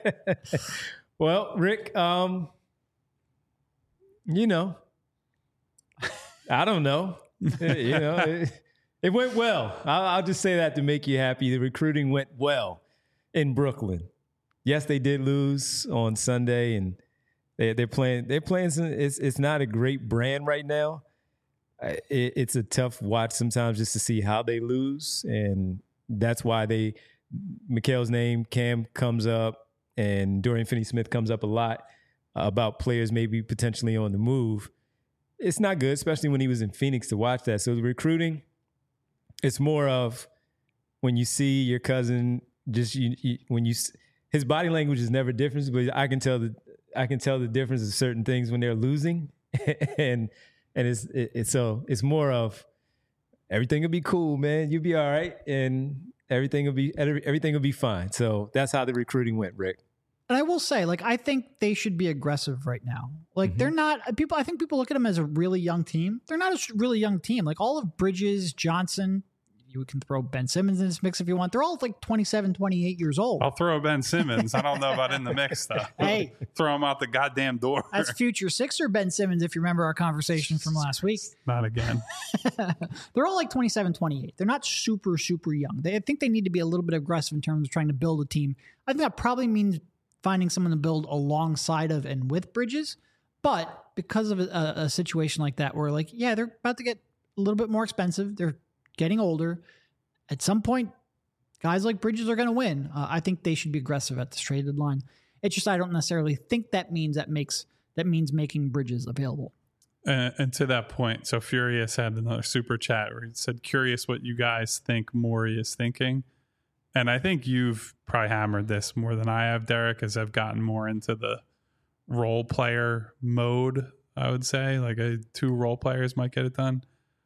Well, Rick, I don't know. It went well. I'll just say that to make you happy. The recruiting went well in Brooklyn. Yes, they did lose on Sunday, and they're playing. It's not a great brand right now. It's a tough watch sometimes just to see how they lose, and that's why Mikal's name, Cam, comes up, and Dorian Finney-Smith comes up a lot about players maybe potentially on the move. It's not good, especially when he was in Phoenix, to watch that. So the recruiting, it's more of when you see your cousin, just his body language is never different, but I can tell the difference of certain things when they're losing, and it's more of everything will be cool, man. You'll be all right, and everything will be fine. So that's how the recruiting went, Rick. And I will say, I think they should be aggressive right now. They're not people. I think people look at them as a really young team. They're not a really young team. All of Bridges, Johnson, you can throw Ben Simmons in this mix if you want. They're all 27, 28 years old. I'll throw Ben Simmons. I don't know about in the mix though. Hey, throw him out the goddamn door. That's future Sixer Ben Simmons, if you remember our conversation from last week. Not again. They're all 27, 28. They're not super, super young. I think they need to be a little bit aggressive in terms of trying to build a team. I think that probably means finding someone to build alongside of and with Bridges. But because of a situation like that where they're about to get a little bit more expensive. They're getting older. At some point, guys like Bridges are going to win. I think they should be aggressive at this trade deadline. It's just I don't necessarily think that means making Bridges available. And to that point, so Furious had another super chat where he said, curious what you guys think Morey is thinking. and I think you've probably hammered this more than I have, Derek, as I've gotten more into the role player mode, I would say. Like 2 role players might get it done.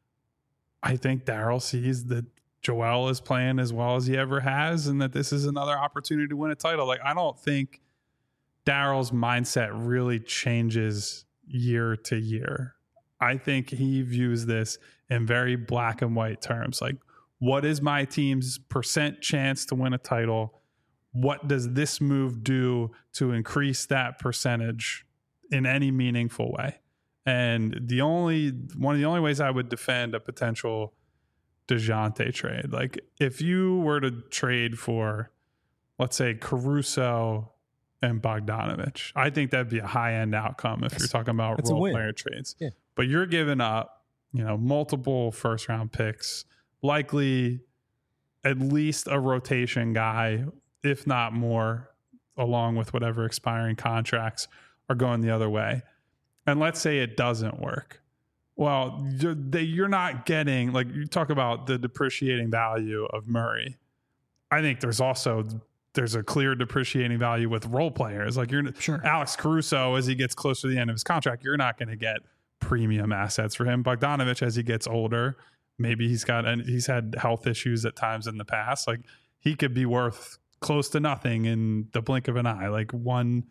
I think Daryl sees that Joel is playing as well as he ever has, and that this is another opportunity to win a title. Like, I don't think Daryl's mindset really changes year to year. I think he views this in very black and white terms. Like, what is my team's % chance to win a title? What does this move do to increase that percentage in any meaningful way? And one of the only ways I would defend a potential DeJounte trade, like if you were to trade for, let's say, Caruso and Bogdanovich, I think that'd be a high-end outcome if you're talking about role player trades. Yeah. But you're giving up, multiple first-round picks, likely at least a rotation guy, if not more, along with whatever expiring contracts are going the other way. And let's say it doesn't work. Well, you're not getting, like, you talk about the depreciating value of Murray. I think there's a clear depreciating value with role players. Like, sure. Alex Caruso, as he gets closer to the end of his contract, you're not going to get premium assets for him. Bogdanovich, as he gets older, maybe he's had health issues at times in the past. Like, he could be worth close to nothing in the blink of an eye. Like, one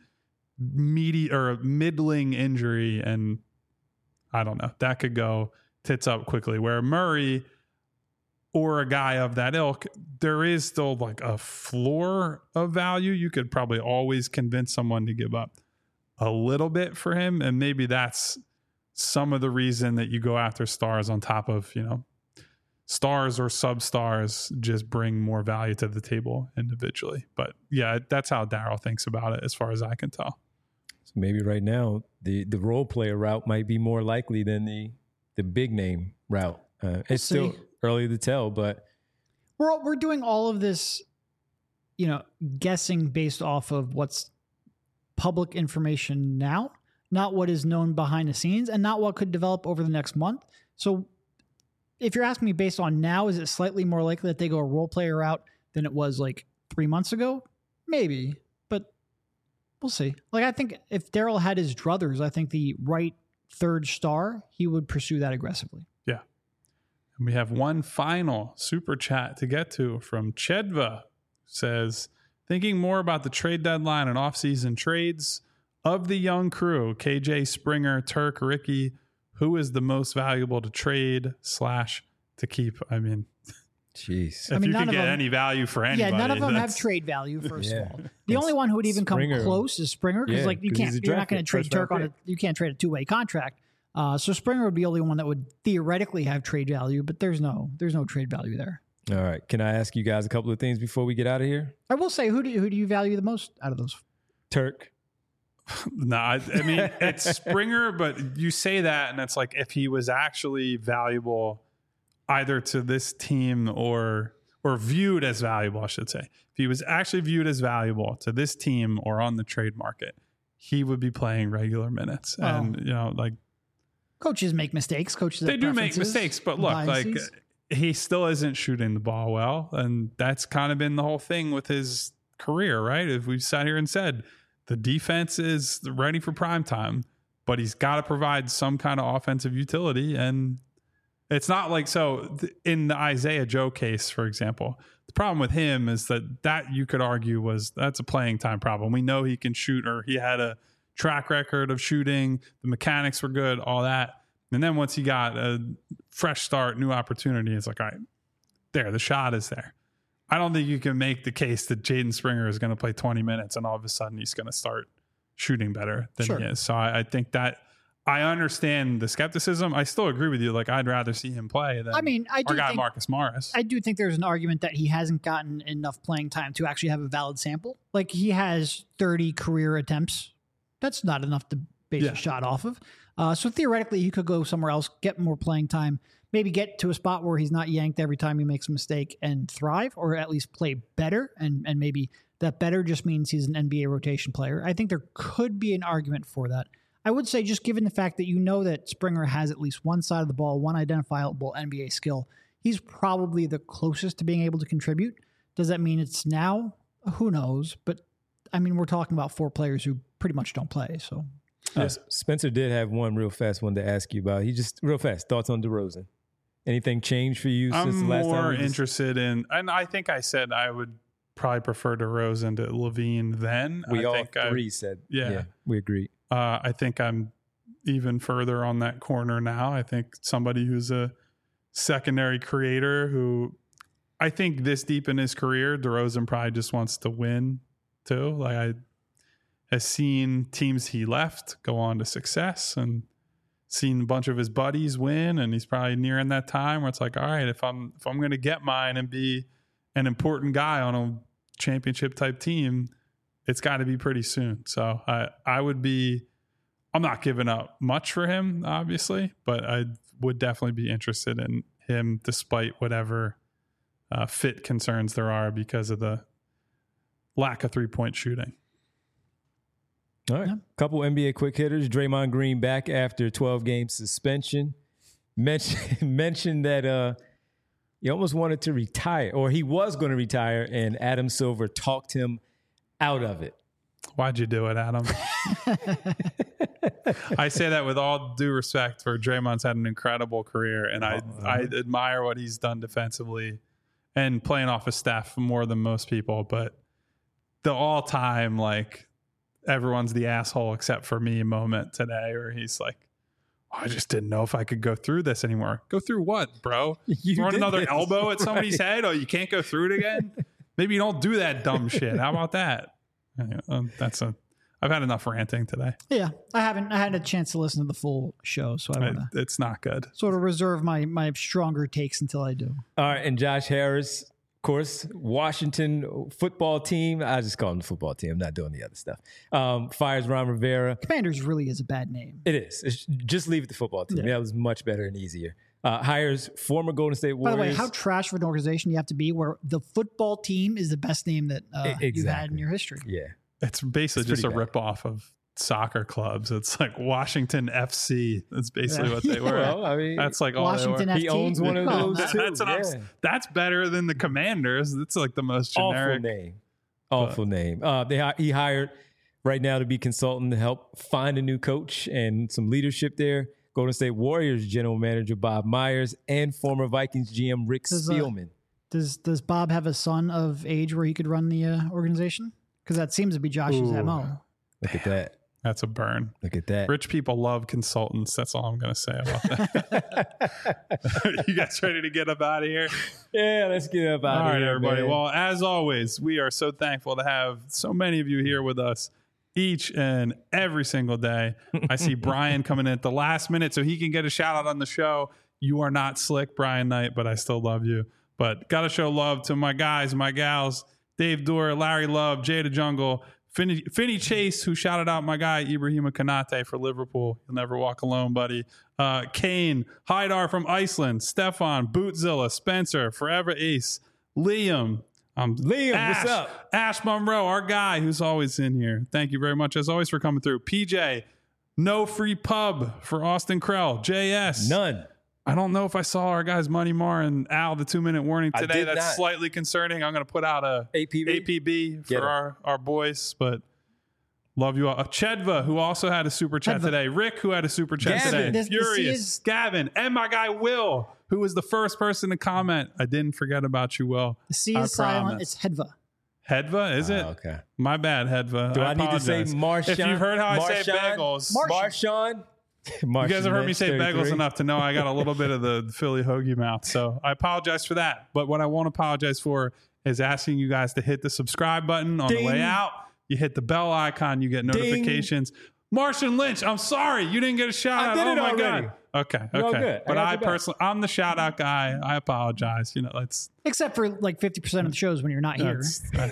middling injury, and I don't know, that could go tits up quickly. Where Murray or a guy of that ilk, there is still like a floor of value. You could probably always convince someone to give up a little bit for him. And maybe that's some of the reason that you go after stars on top of, stars or sub-stars just bring more value to the table individually. But yeah, that's how Daryl thinks about it as far as I can tell. So maybe right now the role player route might be more likely than the big name route. It's still early to tell, but we're doing all of this, guessing based off of what's public information now, not what is known behind the scenes, and not what could develop over the next month. So if you're asking me based on now, is it slightly more likely that they go a role player route than it was like 3 months ago? Maybe, but we'll see. Like, I think if Daryl had his druthers, I think the right third star, he would pursue that aggressively. Yeah. And we have one final super chat to get to from Chedva. Says, thinking more about the trade deadline and offseason trades of the young crew, KJ, Springer, Turk, Ricky, who is the most valuable to trade / to keep? I mean, jeez. If you could get any value for anybody. Yeah, none of them have trade value, first of all. The only one who would even come close is Springer, because you're not going to trade Turk on you can't trade a 2-way contract. So Springer would be the only one that would theoretically have trade value, but there's no trade value there. All right. Can I ask you guys a couple of things before we get out of here? I will say, who do you value the most out of those? Turk. No, I mean, it's Springer, but you say that, and it's like if he was actually valuable either to this team or viewed as valuable, I should say. If he was actually viewed as valuable to this team or on the trade market, he would be playing regular minutes. Oh. And, like, coaches make mistakes. They do make mistakes, but look, biases. Like, he still isn't shooting the ball well. And that's kind of been the whole thing with his career, right? If we sat here and said the defense is ready for prime time, but he's got to provide some kind of offensive utility. And it's not like, so in the Isaiah Joe case, for example, the problem with him is that you could argue that's a playing time problem. We know he can shoot, or he had a track record of shooting. The mechanics were good, all that. And then once he got a fresh start, new opportunity, it's like, all right, the shot is there. I don't think you can make the case that Jaden Springer is going to play 20 minutes and all of a sudden he's going to start shooting better than he is. So I think that I understand the skepticism. I still agree with you. Like, I'd rather see him play than our guy Marcus Morris. I do think there's an argument that he hasn't gotten enough playing time to actually have a valid sample. Like, he has 30 career attempts. That's not enough to base a shot off of. So theoretically, he could go somewhere else, get more playing time, maybe get to a spot where he's not yanked every time he makes a mistake and thrive, or at least play better. And maybe that better just means he's an NBA rotation player. I think there could be an argument for that. I would say, just given the fact that that Springer has at least one side of the ball, one identifiable NBA skill, he's probably the closest to being able to contribute. Does that mean it's now? Who knows? But I mean, we're talking about 4 players who pretty much don't play. So Spencer did have one real fast one to ask you about. He just real fast thoughts on DeRozan. Anything changed for you since the last time? I'm more interested in, and I think I said I would probably prefer DeRozan to Levine then. We all three said, yeah, we agree. I think I'm even further on that corner now. I think somebody who's a secondary creator who I think this deep in his career, DeRozan probably just wants to win too. Like I has seen teams he left go on to success and seen a bunch of his buddies win, and he's probably nearing that time where it's like, all right, if I'm going to get mine and be an important guy on a championship type team, it's got to be pretty soon. So I'm not giving up much for him, obviously, but I would definitely be interested in him despite whatever fit concerns there are because of the lack of 3-point shooting. All right. Couple NBA quick hitters. Draymond Green back after 12-game suspension. Mentioned that he almost wanted to retire, or he was going to retire, and Adam Silver talked him out of it. Why'd you do it, Adam? I say that with all due respect for Draymond's had an incredible career, and I admire what he's done defensively and playing off of Steph more than most people, but the all-time, like, everyone's the asshole except for me moment today where he's like, I just didn't know if I could go through this anymore. Go through what, bro? Throw another elbow at somebody's head? Oh, you can't go through it again? Maybe you don't do that dumb shit. How about that? I've had enough ranting today. Yeah, I hadn't had a chance to listen to the full show, so it's not good. Sort of reserve my stronger takes until I do. All right, and Josh Harris, of course, Washington football team. I just call him the football team. I'm not doing the other stuff. Fires Ron Rivera. Commanders really is a bad name. It is. Just leave it the football team. Yeah. That was much better and easier. Hires former Golden State Warriors. By the way, how trash of an organization you have to be where the football team is the best name that you've had in your history. Yeah. It's basically just a ripoff of soccer clubs. It's like Washington FC. That's basically what they were. Well, I mean, that's like all Washington they were. FT. He owns one of those too. That's better than the Commanders. It's like the most generic Awful name. He hired right now to be consultant to help find a new coach and some leadership there. Golden State Warriors general manager Bob Myers and former Vikings GM Rick Spielman. Does Bob have a son of age where he could run the organization? Because that seems to be Josh's MO. Look at that. That's a burn. Look at that. Rich people love consultants. That's all I'm going to say about that. You guys ready to get up out of here? Yeah, let's get up out of here. All right, everybody. Man. Well, as always, we are so thankful to have so many of you here with us each and every single day. I see Brian coming in at the last minute so he can get a shout out on the show. You are not slick, Brian Knight, but I still love you. But got to show love to my guys, my gals, Dave Dorr, Larry Love, Jada Jungle, Finney Chase, who shouted out my guy Ibrahima Konate for Liverpool. You'll never walk alone, buddy. Kane, Haidar from Iceland, Stefan, Bootzilla, Spencer, Forever Ace, Liam. What's up? Ash Monroe, our guy who's always in here. Thank you very much, as always, for coming through. PJ, no free pub for Austin Krell. JS. None. I don't know if I saw our guys Money Mar and Al, the 2-minute warning today. That's not. Slightly concerning. I'm going to put out a APB for our boys, but love you all. Chedva, who also had a super chat today. Rick, who had a super chat today. Furious. Gavin. And my guy Will, who was the first person to comment. I didn't forget about you, Will. The C is silent. It's Hedva. Hedva, is it? Okay. My bad, Hedva. Do I need to say Marshawn? If you've heard how I say bagels. Marshawn. You guys have heard me say bagels enough to know I got a little bit of the Philly hoagie mouth. So I apologize for that. But what I won't apologize for is asking you guys to hit the subscribe button on the way out. You hit the bell icon. You get notifications. Martian Lynch, I'm sorry. You didn't get a shout out. Oh, my God. Okay. Good. But I personally, I'm the shout out guy. I apologize. Except for like 50% of the shows when you're not here.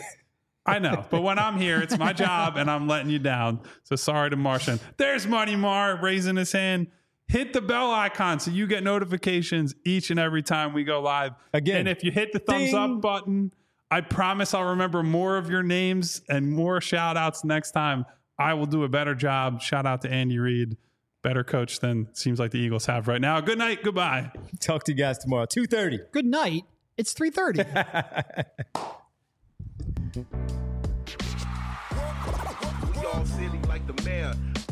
I know, but when I'm here, it's my job, and I'm letting you down. So sorry to Martian. There's Money Mar raising his hand. Hit the bell icon so you get notifications each and every time we go live. Again, and if you hit the thumbs up button, I promise I'll remember more of your names and more shout outs next time. I will do a better job. Shout out to Andy Reid. Better coach than it seems like the Eagles have right now. Good night. Goodbye. Talk to you guys tomorrow. 2:30. Good night. It's 3:30. We all silly like the mayor.